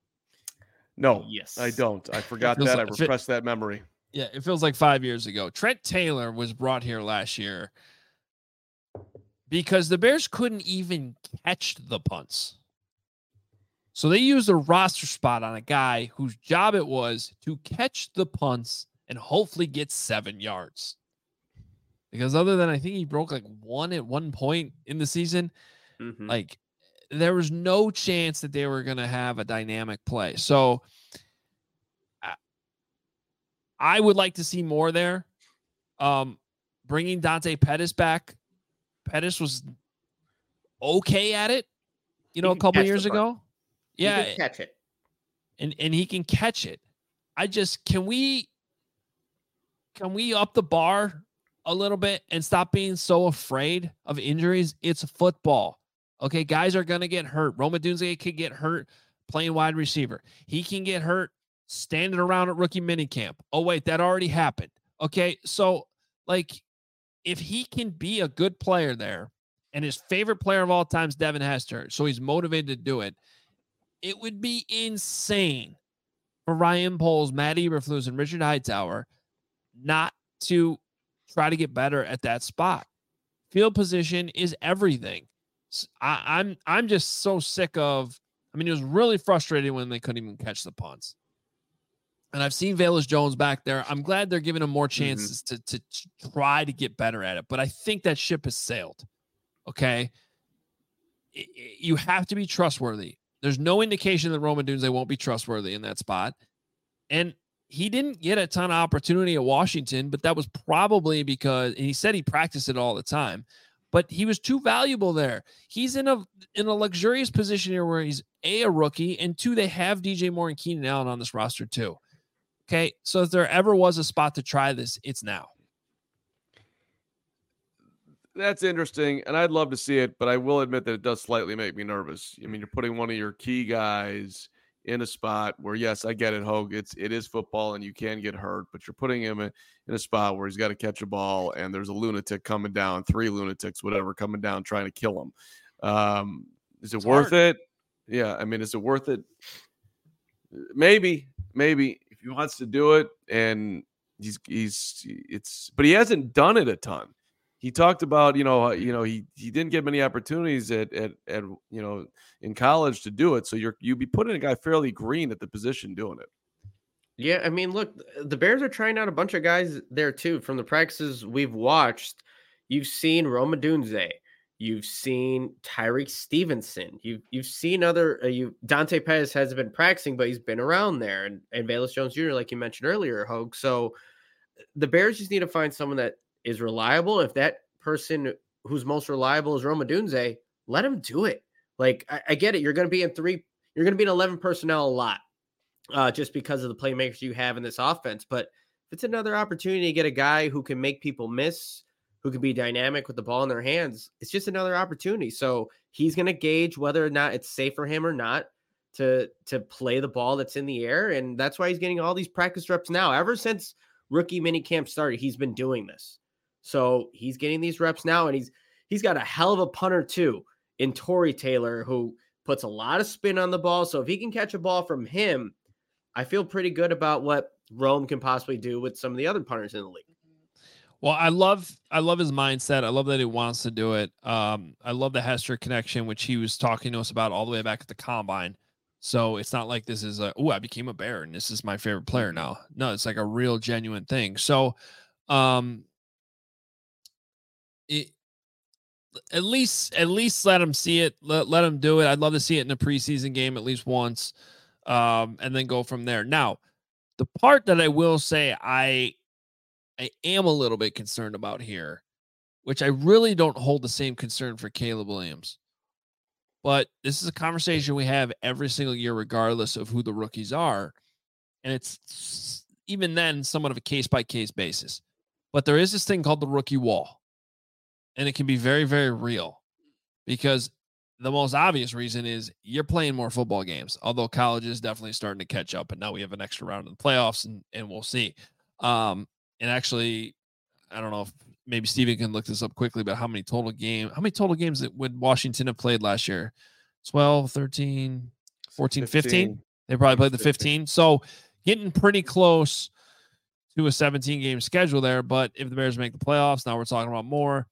No, yes, I don't. I forgot that. I repressed that memory. Yeah, it feels like 5 years ago. Trent Taylor was brought here last year because the Bears couldn't even catch the punts. So they used a roster spot on a guy whose job it was to catch the punts and hopefully get 7 yards. Because other than I think he broke like 1 at one point in the season, like there was no chance that they were going to have a dynamic play. So I would like to see more there. Bringing Dante Pettis back. Pettis was okay at it, a couple years ago. Yeah, he can catch it, and he can catch it. I just can we up the bar a little bit and stop being so afraid of injuries? It's football, okay? Guys are gonna get hurt. Roma Dunze could get hurt playing wide receiver. He can get hurt standing around at rookie minicamp. Oh wait, that already happened. Okay, so like if he can be a good player there, and his favorite player of all time is Devin Hester, so he's motivated to do it. It would be insane for Ryan Poles, Matt Eberflus, and Richard Hightower not to try to get better at that spot. Field position is everything. I'm just so sick of. I mean, it was really frustrating when they couldn't even catch the punts. And I've seen Velus Jones back there. I'm glad they're giving him more chances to try to get better at it. But I think that ship has sailed. Okay. You have to be trustworthy. There's no indication that Rome Odunze won't be trustworthy in that spot. And he didn't get a ton of opportunity at Washington, but that was probably because, and he said he practiced it all the time, but he was too valuable there. He's in a luxurious position here where he's a rookie, and 2, they have DJ Moore and Keenan Allen on this roster too. Okay, so if there ever was a spot to try this, it's now. That's interesting, and I'd love to see it, but I will admit that it does slightly make me nervous. I mean, you're putting one of your key guys in a spot where, yes, I get it, Hogue. It is football, and you can get hurt, but you're putting him in a spot where he's got to catch a ball, and there's a lunatic coming down, 3 lunatics, whatever, coming down trying to kill him. Is it worth it? Yeah, I mean, is it worth it? Maybe if he wants to do it, and but he hasn't done it a ton. He talked about, he didn't get many opportunities at in college to do it. So you'd be putting a guy fairly green at the position doing it. Yeah, I mean, look, the Bears are trying out a bunch of guys there too. From the practices we've watched, you've seen Rome Odunze, you've seen Tyreek Stevenson, you've seen other Dante Pettis hasn't been practicing, but he's been around there, and Velus Jones Jr., like you mentioned earlier, Hogue. So the Bears just need to find someone that is reliable. If that person who's most reliable is Rome Odunze, let him do it. Like, I get it. You're going to be in 11 personnel a lot, just because of the playmakers you have in this offense. But if it's another opportunity to get a guy who can make people miss, who can be dynamic with the ball in their hands, it's just another opportunity. So he's going to gauge whether or not it's safe for him or not to play the ball that's in the air. And that's why he's getting all these practice reps now. Ever since rookie minicamp started, he's been doing this. So he's getting these reps now, and he's got a hell of a punter too in Tory Taylor, who puts a lot of spin on the ball. So if he can catch a ball from him, I feel pretty good about what Rome can possibly do with some of the other punters in the league. Well, I love his mindset. I love that he wants to do it. I love the Hester connection, which he was talking to us about all the way back at the combine. So it's not like this is I became a Bear and this is my favorite player now. No, it's like a real genuine thing. So, at least let him see it. Let him do it. I'd love to see it in a preseason game at least once, and then go from there. Now, the part that I will say I am a little bit concerned about here, which I really don't hold the same concern for Caleb Williams. But this is a conversation we have every single year, regardless of who the rookies are. And it's even then somewhat of a case-by-case basis. But there is this thing called the rookie wall. And it can be very, very real, because the most obvious reason is you're playing more football games, although college is definitely starting to catch up. And now we have an extra round in the playoffs, and we'll see. And actually, I don't know if maybe Steven can look this up quickly, but how many total games would Washington have played last year? 12, 13, 14, 15? They probably played the 15. So getting pretty close to a 17-game schedule there. But if the Bears make the playoffs, now we're talking about more.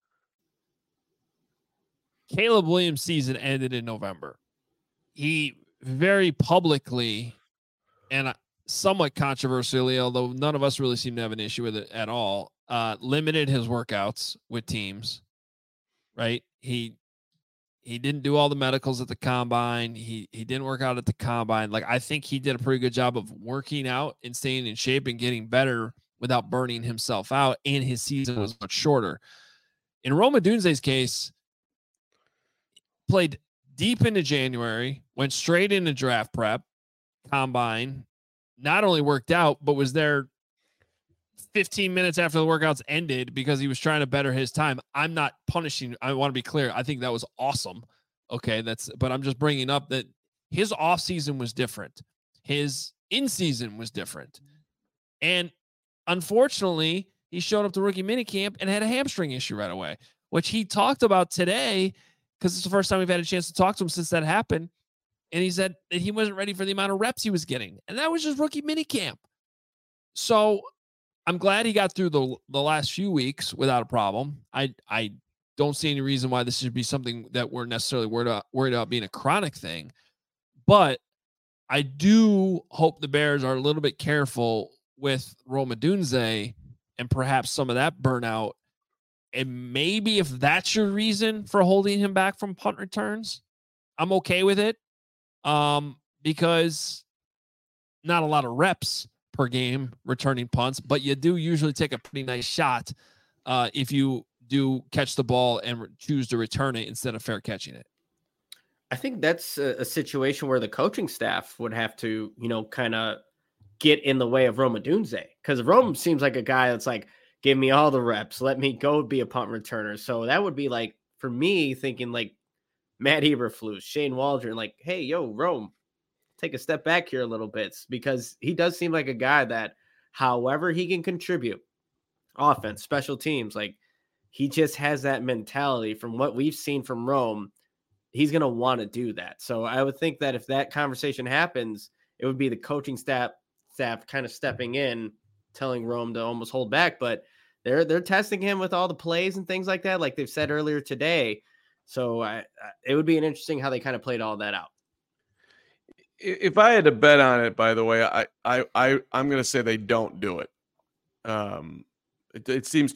Caleb Williams' season ended in November. He very publicly and somewhat controversially, although none of us really seem to have an issue with it at all, limited his workouts with teams, right? He didn't do all the medicals at the combine. He didn't work out at the combine. Like, I think he did a pretty good job of working out and staying in shape and getting better without burning himself out, and his season was much shorter. In Rome Odunze's case, played deep into January, went straight into draft prep, combine, not only worked out, but was there 15 minutes after the workouts ended because he was trying to better his time. I'm not punishing. I want to be clear. I think that was awesome. Okay. But I'm just bringing up that his off season was different. His in season was different. And unfortunately, he showed up to rookie minicamp and had a hamstring issue right away, which he talked about today, because it's the first time we've had a chance to talk to him since that happened. And he said that he wasn't ready for the amount of reps he was getting. And that was just rookie minicamp. So I'm glad he got through the last few weeks without a problem. I don't see any reason why this should be something that we're necessarily worried about being a chronic thing. But I do hope the Bears are a little bit careful with Rome Odunze and perhaps some of that burnout And maybe if that's your reason for holding him back from punt returns, I'm okay with it. Because not a lot of reps per game returning punts, but you do usually take a pretty nice shot if you do catch the ball and choose to return it instead of fair catching it. I think that's a situation where the coaching staff would have to, kind of get in the way of Rome Odunze, because Rome seems like a guy that's like, give me all the reps, let me go be a punt returner. So that would be like, for me, thinking like Matt Eberflus, Shane Waldron, like, hey, yo, Rome, take a step back here a little bit, because he does seem like a guy that, however he can contribute, offense, special teams, like he just has that mentality. From what we've seen from Rome, he's going to want to do that. So I would think that if that conversation happens, it would be the coaching staff kind of stepping in, telling Rome to almost hold back. But they're testing him with all the plays and things like that, like they've said earlier today. So it would be an interesting how they kind of played all that out. If I had to bet on it, by the way, I'm going to say they don't do it. It seems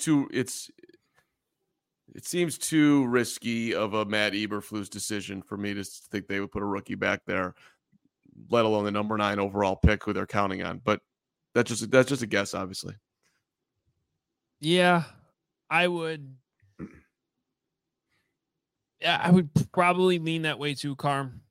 too risky of a Matt Eberflus decision for me to think they would put a rookie back there, let alone the number 9 overall pick who they're counting on. But that's just a guess, obviously. Yeah, I would. Yeah, I would probably lean that way too, Carm.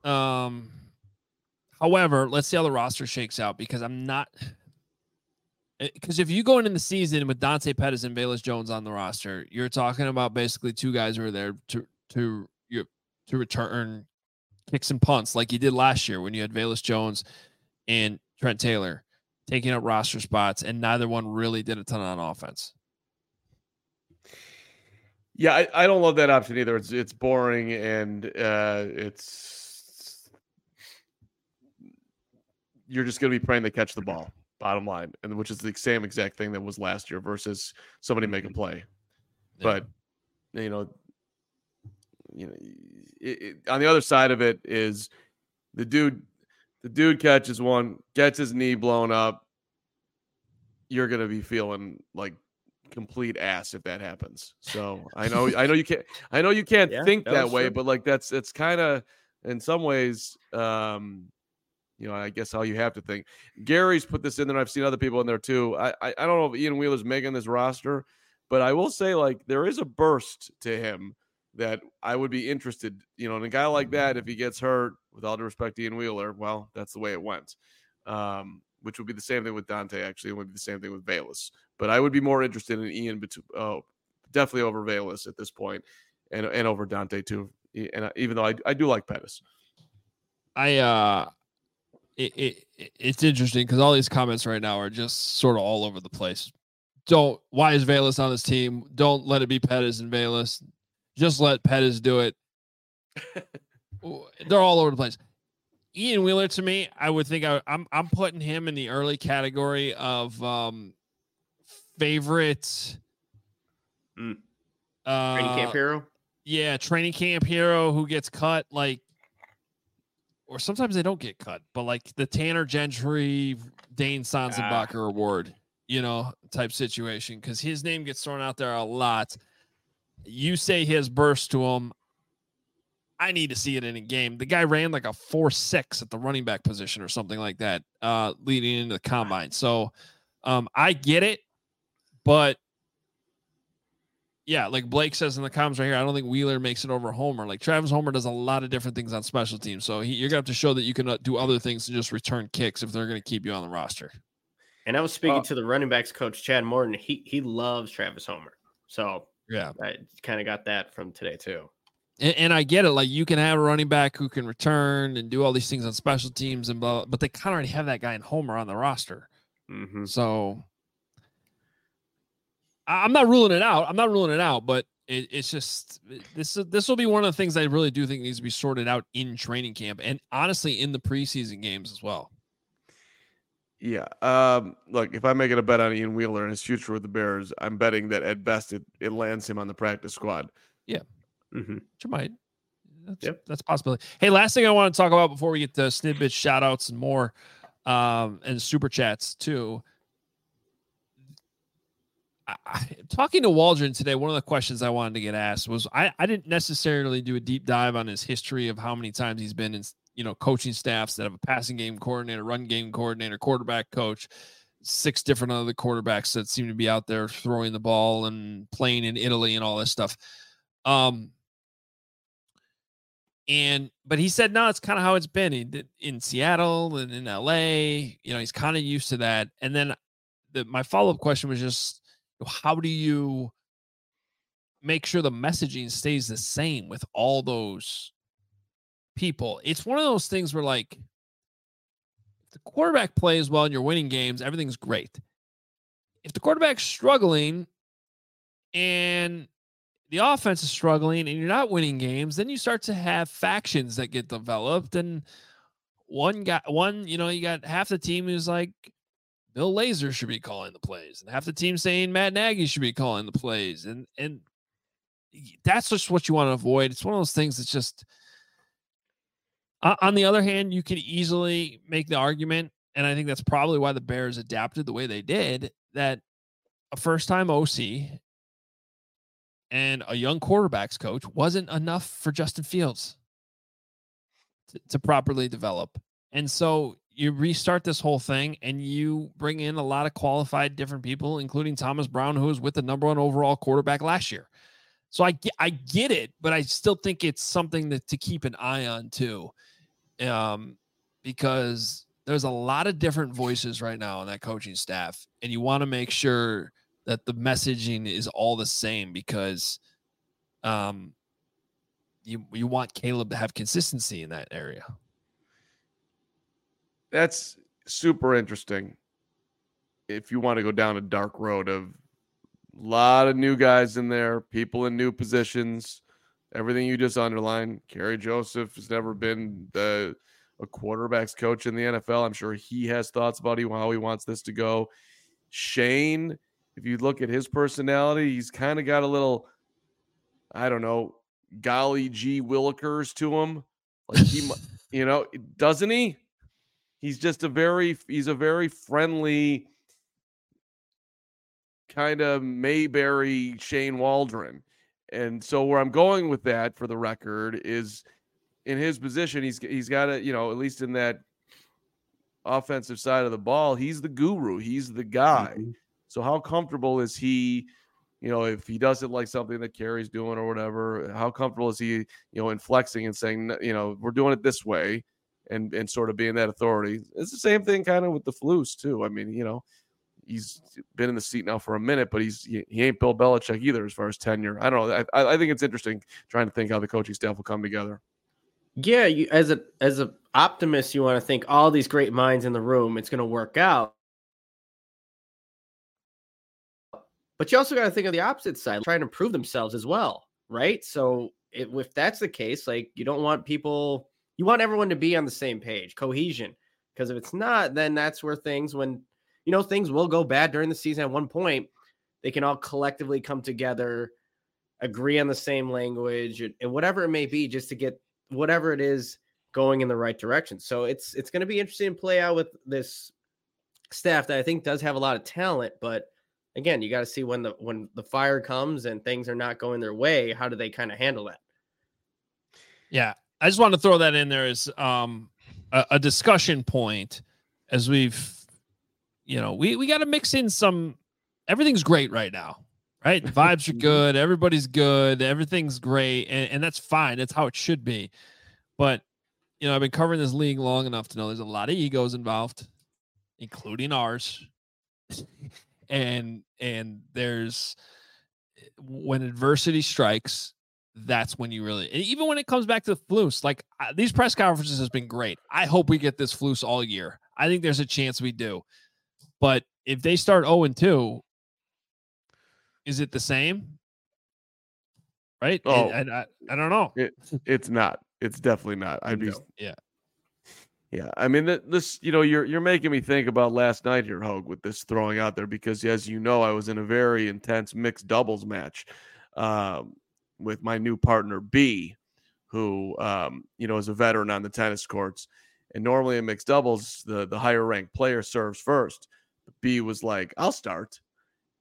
However, let's see how the roster shakes out, because I'm not. Because if you go into the season with Dante Pettis and Velus Jones on the roster, you're talking about basically two guys who are there to return kicks and punts like you did last year when you had Velus Jones and Trent Taylor taking up roster spots, and neither one really did a ton on offense. Yeah, I don't love that option either. It's boring, and you're just going to be praying they catch the ball. Bottom line, and which is the same exact thing that was last year versus somebody make a play. Yeah. But on the other side of it is the dude catches one, gets his knee blown up. You're gonna be feeling like complete ass if that happens. So I know you can't think that way, true. But like it's kind of in some ways. I guess how you have to think. Gary's put this in there. I've seen other people in there too. I don't know if Ian Wheeler's making this roster, but I will say like there is a burst to him that I would be interested, in a guy like that. If he gets hurt, with all due respect to Ian Wheeler, well, that's the way it went. Which would be the same thing with Dante, actually. It would be the same thing with Velus. But I would be more interested in Ian, definitely over Velus at this point, and over Dante too. And even though I do like Pettis. It's interesting because all these comments right now are just sort of all over the place. Why is Velus on this team? Don't let it be Pettis and Velus. Just let Pettis do it. They're all over the place. Ian Wheeler, to me, I would think I'm putting him in the early category of favorite training camp hero. Yeah, training camp hero who gets cut, like. Or sometimes they don't get cut, but like the Tanner Gentry, Dane Sonsenbacher award, type situation, because his name gets thrown out there a lot. You say his burst to him. I need to see it in a game. The guy ran like a 4.6 at the running back position or something like that, leading into the combine. So I get it, but yeah, like Blake says in the comments right here, I don't think Wheeler makes it over Homer. Like Travis Homer does a lot of different things on special teams. So you're going to have to show that you can do other things than just return kicks if they're going to keep you on the roster. And I was speaking to the running backs coach, Chad Morton. He loves Travis Homer. So yeah, I kind of got that from today too. And I get it. Like you can have a running back who can return and do all these things on special teams and blah, but they kind of already have that guy in Homer on the roster. Mm-hmm. So I'm not ruling it out, but it's just this will be one of the things I really do think needs to be sorted out in training camp and honestly in the preseason games as well. Yeah. Look, if I'm making a bet on Ian Wheeler and his future with the Bears, I'm betting that at best it lands him on the practice squad. Yeah. Mm-hmm. Which might. That's a possibility. Hey, last thing I want to talk about before we get to snippets, shout outs, and more, and super chats too. talking to Waldron today, one of the questions I wanted to get asked was I didn't necessarily do a deep dive on his history of how many times he's been in, coaching staffs that have a passing game coordinator, run game coordinator, quarterback coach, 6 different other quarterbacks that seem to be out there throwing the ball and playing in Italy and all this stuff. But he said, no, it's kind of how it's been. He did in Seattle and in LA, he's kind of used to that. And then my follow-up question was just, how do you make sure the messaging stays the same with all those people? It's one of those things where, like, if the quarterback plays well and you're winning games, everything's great. If the quarterback's struggling and the offense is struggling and you're not winning games, then you start to have factions that get developed. And you got half the team who's like, Bill Lazor should be calling the plays, and half the team saying Matt Nagy should be calling the plays. And that's just what you want to avoid. It's one of those things that's just, on the other hand, you can easily make the argument, and I think that's probably why the Bears adapted the way they did, that a first-time OC and a young quarterbacks coach wasn't enough for Justin Fields to properly develop. And so you restart this whole thing and you bring in a lot of qualified different people, including Thomas Brown, who was with the number 1 overall quarterback last year. So I get it, but I still think it's something to keep an eye on too. Because there's a lot of different voices right now on that coaching staff, and you want to make sure that the messaging is all the same, because you want Caleb to have consistency in that area. That's super interesting. If you want to go down a dark road of a lot of new guys in there, people in new positions, everything you just underlined. Kerry Joseph has never been a quarterback's coach in the NFL. I'm sure he has thoughts about how he wants this to go. Shane, if you look at his personality, he's kind of got a little, I don't know, golly gee Willikers to him. Like he, doesn't he? He's just a very friendly kind of Mayberry Shane Waldron. And so where I'm going with that, for the record, is in his position, he's got to, at least in that offensive side of the ball, he's the guru. He's the guy. Mm-hmm. So how comfortable is he, if he doesn't like something that Kerry's doing or whatever, how comfortable is he, in flexing and saying, we're doing it this way, and sort of being that authority? It's the same thing kind of with the Flus too. I mean, he's been in the seat now for a minute, but he ain't Bill Belichick either as far as tenure. I don't know. I think it's interesting trying to think how the coaching staff will come together. Yeah, you, as a optimist, you want to think all these great minds in the room, it's going to work out. But you also got to think of the opposite side, trying to prove themselves as well, right? So if that's the case, like, you don't want people, you want everyone to be on the same page, cohesion. Because if it's not, then that's where things will go bad during the season. At one point, they can all collectively come together, agree on the same language, and whatever it may be, just to get whatever it is going in the right direction. So it's going to be interesting to play out with this staff that I think does have a lot of talent, but again, you got to see when the fire comes and things are not going their way, how do they kind of handle that? Yeah, I just wanted to throw that in there as a discussion point, as we've, we got to mix in some, everything's great right now, right? The vibes are good. Everybody's good. Everything's great. And that's fine. That's how it should be. But, I've been covering this league long enough to know there's a lot of egos involved, including ours. and there's, when adversity strikes, that's when you really, even when it comes back to the Flus, like these press conferences has been great. I hope we get this Flus all year. I think there's a chance we do. But if they start 0-2, is it the same? Right? Oh, I don't know. It's not. It's definitely not. Yeah. I mean, this, you're making me think about last night here, Hogue, with this throwing out there, because as you know, I was in a very intense mixed doubles match with my new partner B, who is a veteran on the tennis courts. And normally in mixed doubles, the higher ranked player serves first. B was like, I'll start.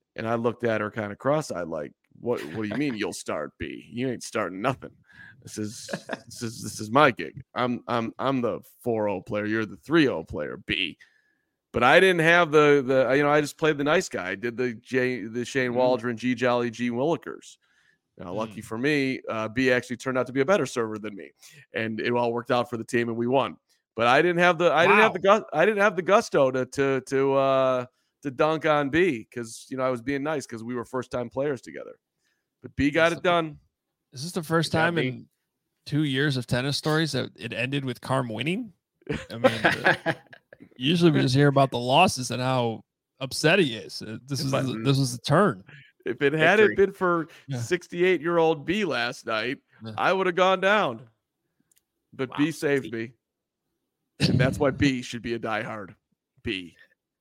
And I looked at her kind of cross-eyed, like, what do you mean you'll start, B? You ain't starting nothing. This is my gig. I'm the 4-0 player. You're the 3-0 player, B. But I didn't have the I just played the nice guy. I did the Shane Waldron, G Jolly, G Willikers. Now, lucky for me, B actually turned out to be a better server than me, and it all worked out for the team, and we won. But I didn't have the gusto to dunk on B because I was being nice because we were first time players together. But B got it done. Is this the first time in 2 years of tennis stories that it ended with Carm winning? I mean, usually we just hear about the losses and how upset he is. This was the turn. If it hadn't been for 68-year-old B last night, I would have gone down. But B saved me. And that's why B should be a diehard. B.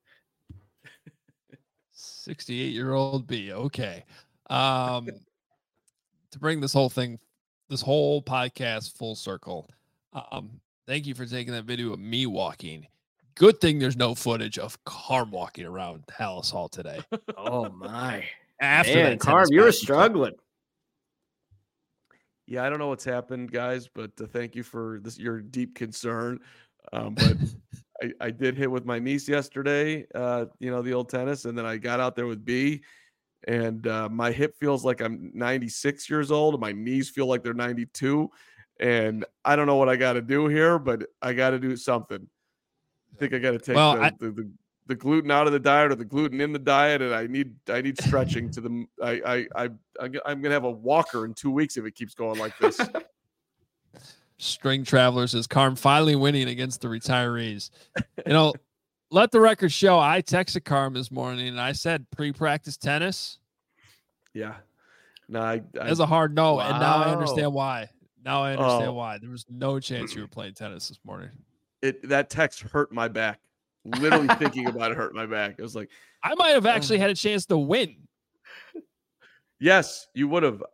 68-year-old B. Okay. To bring this whole podcast full circle. Thank you for taking that video of me walking. Good thing there's no footage of Carm walking around Halas Hall today. Oh my. After man, that, Carm, you were struggling. Yeah, I don't know what's happened, guys, but thank you for your deep concern. But I did hit with my niece yesterday, the old tennis, and then I got out there with B, and my hip feels like I'm 96 years old, and my knees feel like they're 92, and I don't know what I got to do here, but I got to do something. I think I got to take the gluten out of the diet or the gluten in the diet, and I need stretching to the. I'm gonna have a walker in 2 weeks if it keeps going like this. String Travelers is Carm finally winning against the retirees. Let the record show. I texted Carm this morning and I said pre-practice tennis. Yeah, no, that's a hard no, wow. And now I understand why. Why there was no chance you were playing tennis this morning. That text hurt my back. Literally thinking about it hurt my back. It was like I might have actually had a chance to win. Yes, you would have.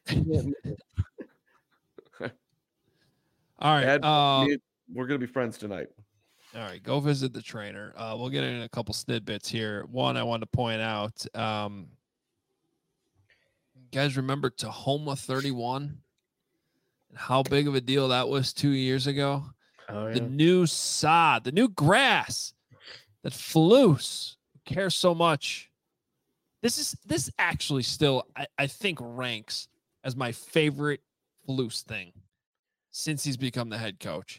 All right. We're going to be friends tonight. All right. Go visit the trainer. We'll get in a couple snidbits here. One, I want to point out, you guys remember Tahoma 31 and how big of a deal that was 2 years ago? Oh, yeah. The new sod, the new grass that Flus cares so much. This actually still, I think, ranks as my favorite Flus thing since he's become the head coach.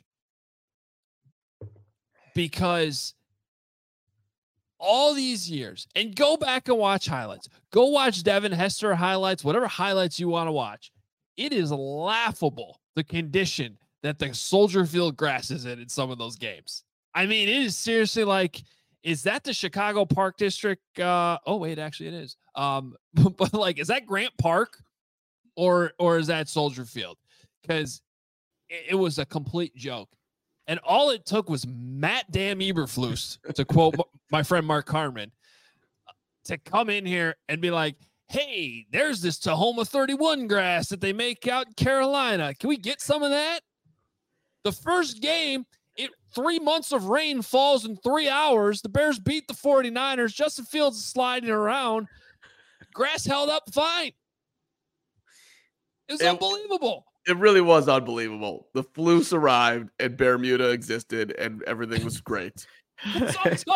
Because all these years, and go back and watch highlights. Go watch Devin Hester highlights, whatever highlights you want to watch. It is laughable, the condition that the Soldier Field grass is in some of those games. I mean, it is seriously like, is that the Chicago Park District? Oh, wait, actually it is. But like, is that Grant Park or is that Soldier Field? Because it was a complete joke. And all it took was Matt Damn Eberflus, to quote my friend Mark Carman, to come in here and be like, hey, there's this Tahoma 31 grass that they make out in Carolina. Can we get some of that? The first game, 3 months of rain falls in 3 hours. The Bears beat the 49ers. Justin Fields is sliding around. Grass held up fine. It was unbelievable. It really was unbelievable. The Flus arrived and Bermuda existed and everything was great. It's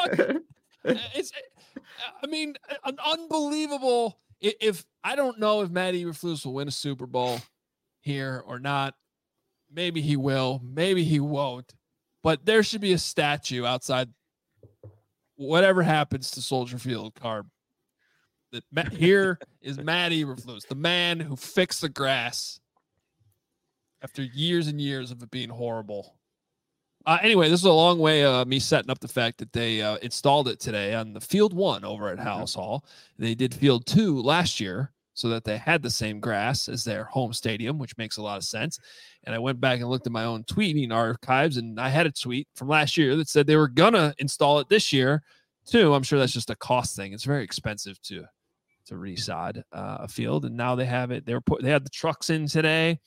an unbelievable. If I don't know if Matt Eberflus will win a Super Bowl here or not. Maybe he will. Maybe he won't. But there should be a statue outside whatever happens to Soldier Field, Carm. Here is Matt Eberflus, the man who fixed the grass after years and years of it being horrible. Anyway, this is a long way of me setting up the fact that they installed it today on the Field 1 over at Halas Hall. They did Field 2 last year so that they had the same grass as their home stadium, which makes a lot of sense. And I went back and looked at my own tweeting archives, and I had a tweet from last year that said they were going to install it this year, too. I'm sure that's just a cost thing. It's very expensive to resod a field, and now they have it. They had the trucks in today.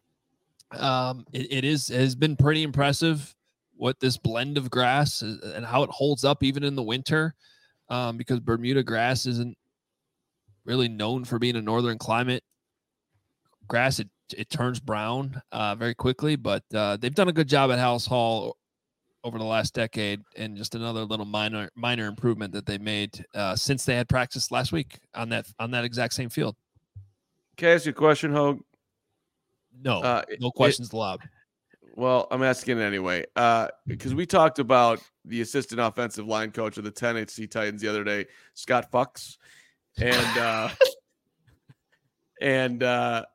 It has been pretty impressive what this blend of grass is, and how it holds up even in the winter, because Bermuda grass isn't really known for being a northern climate. Grass, it turns brown very quickly, but they've done a good job at House Hall over the last decade, and just another little minor improvement that they made since they had practice last week on that exact same field. Can I ask you a question, Hogue? No, no questions allowed. Well, I'm asking anyway, because we talked about the assistant offensive line coach of the Tennessee Titans the other day, Scott Fuchs, and and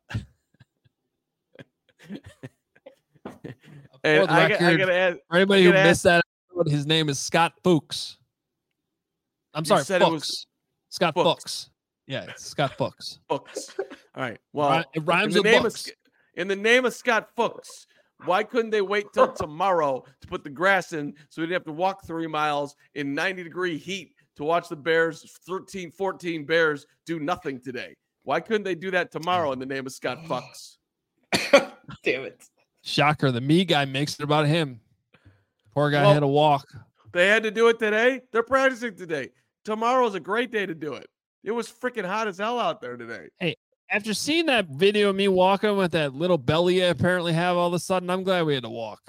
I gotta add, for anybody who missed that, his name is Scott Fuchs. I'm sorry, Fuchs. Scott Fuchs. Yeah, it's Scott Fuchs. Fuchs. All right. Well, it rhymes with Bucks. In the name of Scott Fuchs, why couldn't they wait till tomorrow to put the grass in so we didn't have to walk 3 miles in 90-degree heat to watch the Bears, 13, 14 Bears, do nothing today? Why couldn't they do that tomorrow in the name of Scott Fuchs? Damn it. Shocker. The me guy makes it about him. Poor guy had to walk. They had to do it today. They're practicing today. Tomorrow's a great day to do it. It was freaking hot as hell out there today. Hey, after seeing that video of me walking with that little belly I apparently have all of a sudden, I'm glad we had to walk.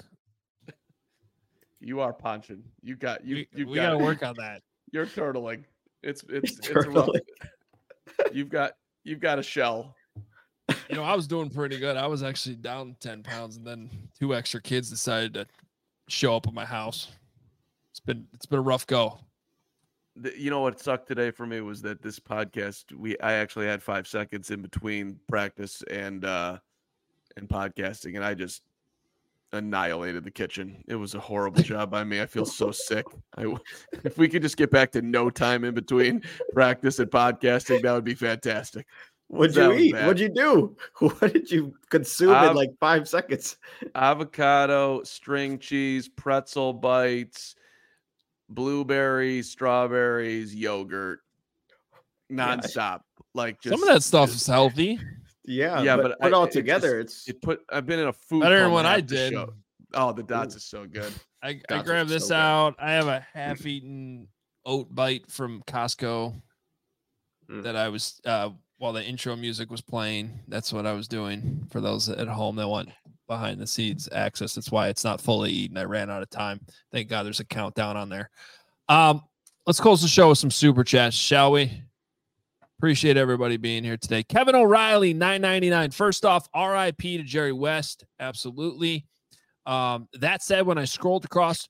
You are punching. We got to work on that. You're turtling. It's rough. You've got a shell. You know, I was doing pretty good. I was actually down 10 pounds, and then 2 extra kids decided to show up at my house. It's been a rough go. You know what sucked today for me was that this podcast, I actually had 5 seconds in between practice and podcasting, and I just annihilated the kitchen. It was a horrible job by me. I feel so sick. If we could just get back to no time in between practice and podcasting, that would be fantastic. What'd you eat? What'd you do? What did you consume in like 5 seconds? Avocado, string cheese, pretzel bites, blueberries, strawberries, yogurt, nonstop. Like just, some of that stuff is healthy. Yeah, but put all together, I've been in a food better than what I did. Oh, the dots is so good. I grabbed this out. I have a half-eaten oat bite from Costco that I was while the intro music was playing. That's what I was doing for those at home that want behind the scenes access. That's why it's not fully eaten. I ran out of time. Thank God there's a countdown on there. Let's close the show with some super chats, shall we? Appreciate everybody being here today. Kevin O'Reilly, $9.99. First off, RIP to Jerry West. Absolutely. That said, when I scrolled across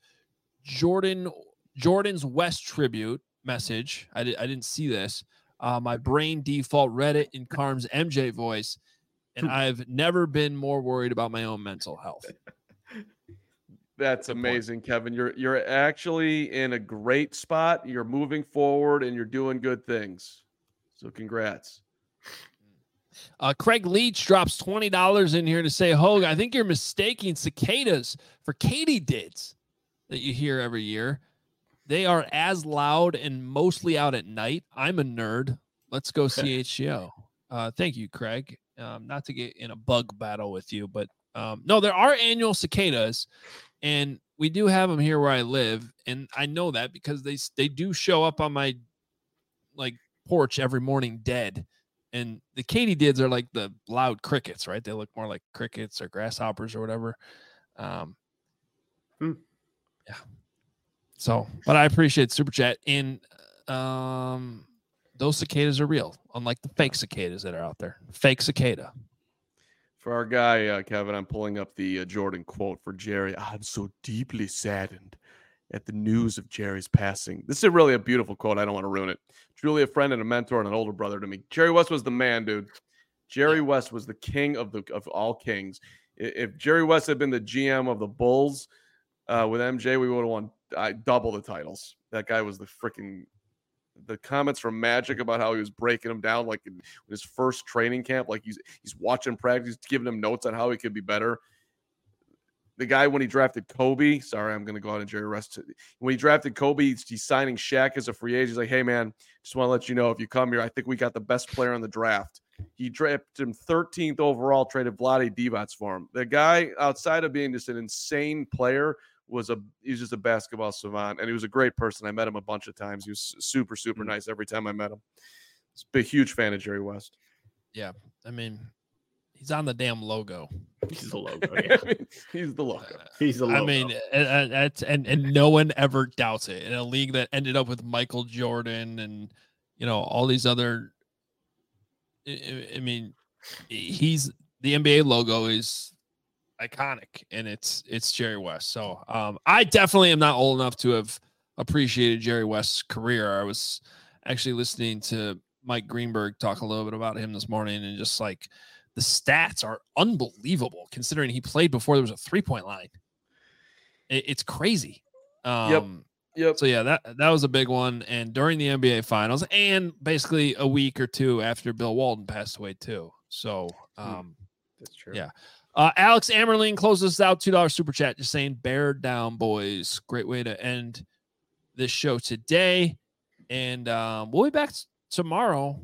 Jordan's West tribute message, I didn't see this. My brain default read it in Carm's MJ voice, and I've never been more worried about my own mental health. That's amazing, Kevin. You're actually in a great spot. You're moving forward, and you're doing good things. So congrats. Craig Leach drops $20 in here to say, Hogue, I think you're mistaking cicadas for katydids that you hear every year. They are as loud and mostly out at night. I'm a nerd. Let's go CHGO. Thank you, Craig. Not to get in a bug battle with you, but no, there are annual cicadas, and we do have them here where I live, and I know that because they do show up on my porch every morning dead. And the katydids are like the loud crickets, right? They look more like crickets or grasshoppers or whatever. Yeah. So, but I appreciate Super Chat. And those cicadas are real, unlike the fake cicadas that are out there. Fake cicada. For our guy, Kevin, I'm pulling up the Jordan quote for Jerry. I'm so deeply saddened at the news of Jerry's passing. This is really a beautiful quote. I don't want to ruin it. Truly a friend and a mentor and an older brother to me. Jerry West was the man, dude. Jerry West was the king of all kings. If Jerry West had been the GM of the Bulls with MJ, we would have won double the titles. That guy was the comments from Magic about how he was breaking him down like in his first training camp, like he's watching practice, giving him notes on how he could be better. The guy, when he drafted Kobe, sorry, I'm going to go out and Jerry West. When he drafted Kobe, he's signing Shaq as a free agent. He's like, hey, man, just want to let you know, if you come here, I think we got the best player in the draft. He drafted him 13th overall, traded Vlade Divac for him. The guy, outside of being just an insane player, he's just a basketball savant, and he was a great person. I met him a bunch of times. He was super, super nice every time I met him. a huge fan of Jerry West. Yeah, I mean, he's on the damn logo. He's the logo. Yeah. He's the logo. He's the logo. I mean, and no one ever doubts it. In a league that ended up with Michael Jordan and all these other. I mean, the NBA logo is iconic, and it's Jerry West. So I definitely am not old enough to have appreciated Jerry West's career. I was actually listening to Mike Greenberg talk a little bit about him this morning, and just like the stats are unbelievable considering he played before there was a 3-point line. It's crazy. Yep. So yeah, that was a big one. And during the NBA finals, and basically a week or two after Bill Walton passed away too. So that's true. Yeah. Alex Amerling closes us out, $2 super chat, just saying bear down, boys. Great way to end this show today. And we'll be back tomorrow.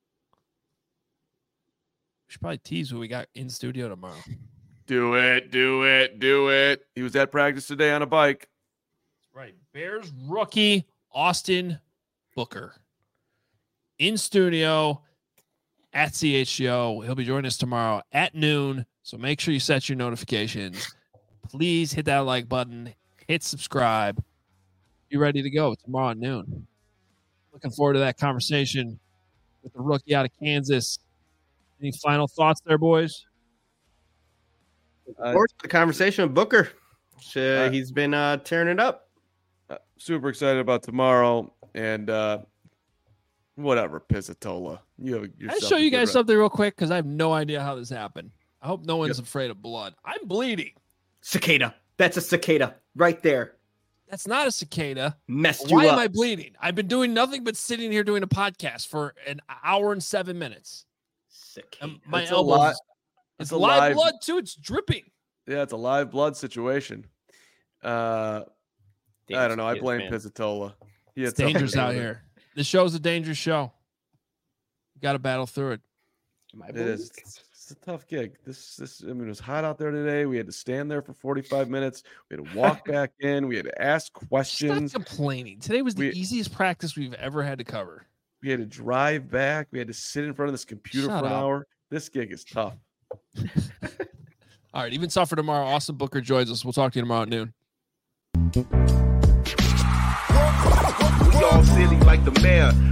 We should probably tease what we got in studio tomorrow. Do it. He was at practice today on a bike. Right. Bears rookie Austin Booker in studio at CHGO. He'll be joining us tomorrow at noon. So make sure you set your notifications. Please hit that like button. Hit subscribe. Be ready to go tomorrow at noon. Looking forward to that conversation with the rookie out of Kansas. Any final thoughts there, boys? Of course, the conversation with Booker. He's been tearing it up. Super excited about tomorrow, and whatever, Pizzatola. I'll show you guys something real quick because I have no idea how this happened. I hope no one's afraid of blood. I'm bleeding. Cicada. That's a cicada right there. That's not a cicada. Messed you Why up. am I bleeding? I've been doing nothing but sitting here doing a podcast for an hour and 7 minutes. Cicada. My elbow. It's live blood too. It's dripping. Yeah, it's a live blood situation. I don't know. I blame Pizzatola. It's dangerous out here. This show's a dangerous show. You got to battle through it. It is. It's a tough gig. I mean, it was hot out there today. We had to stand there for 45 minutes. We had to walk back in. We had to ask questions. Stop complaining. Today was the easiest practice we've ever had to cover. We had to drive back. We had to sit in front of this computer for an hour. This gig is tough. All right. Even tougher tomorrow. Austin Booker joins us. We'll talk to you tomorrow at noon. We all silly like the mayor.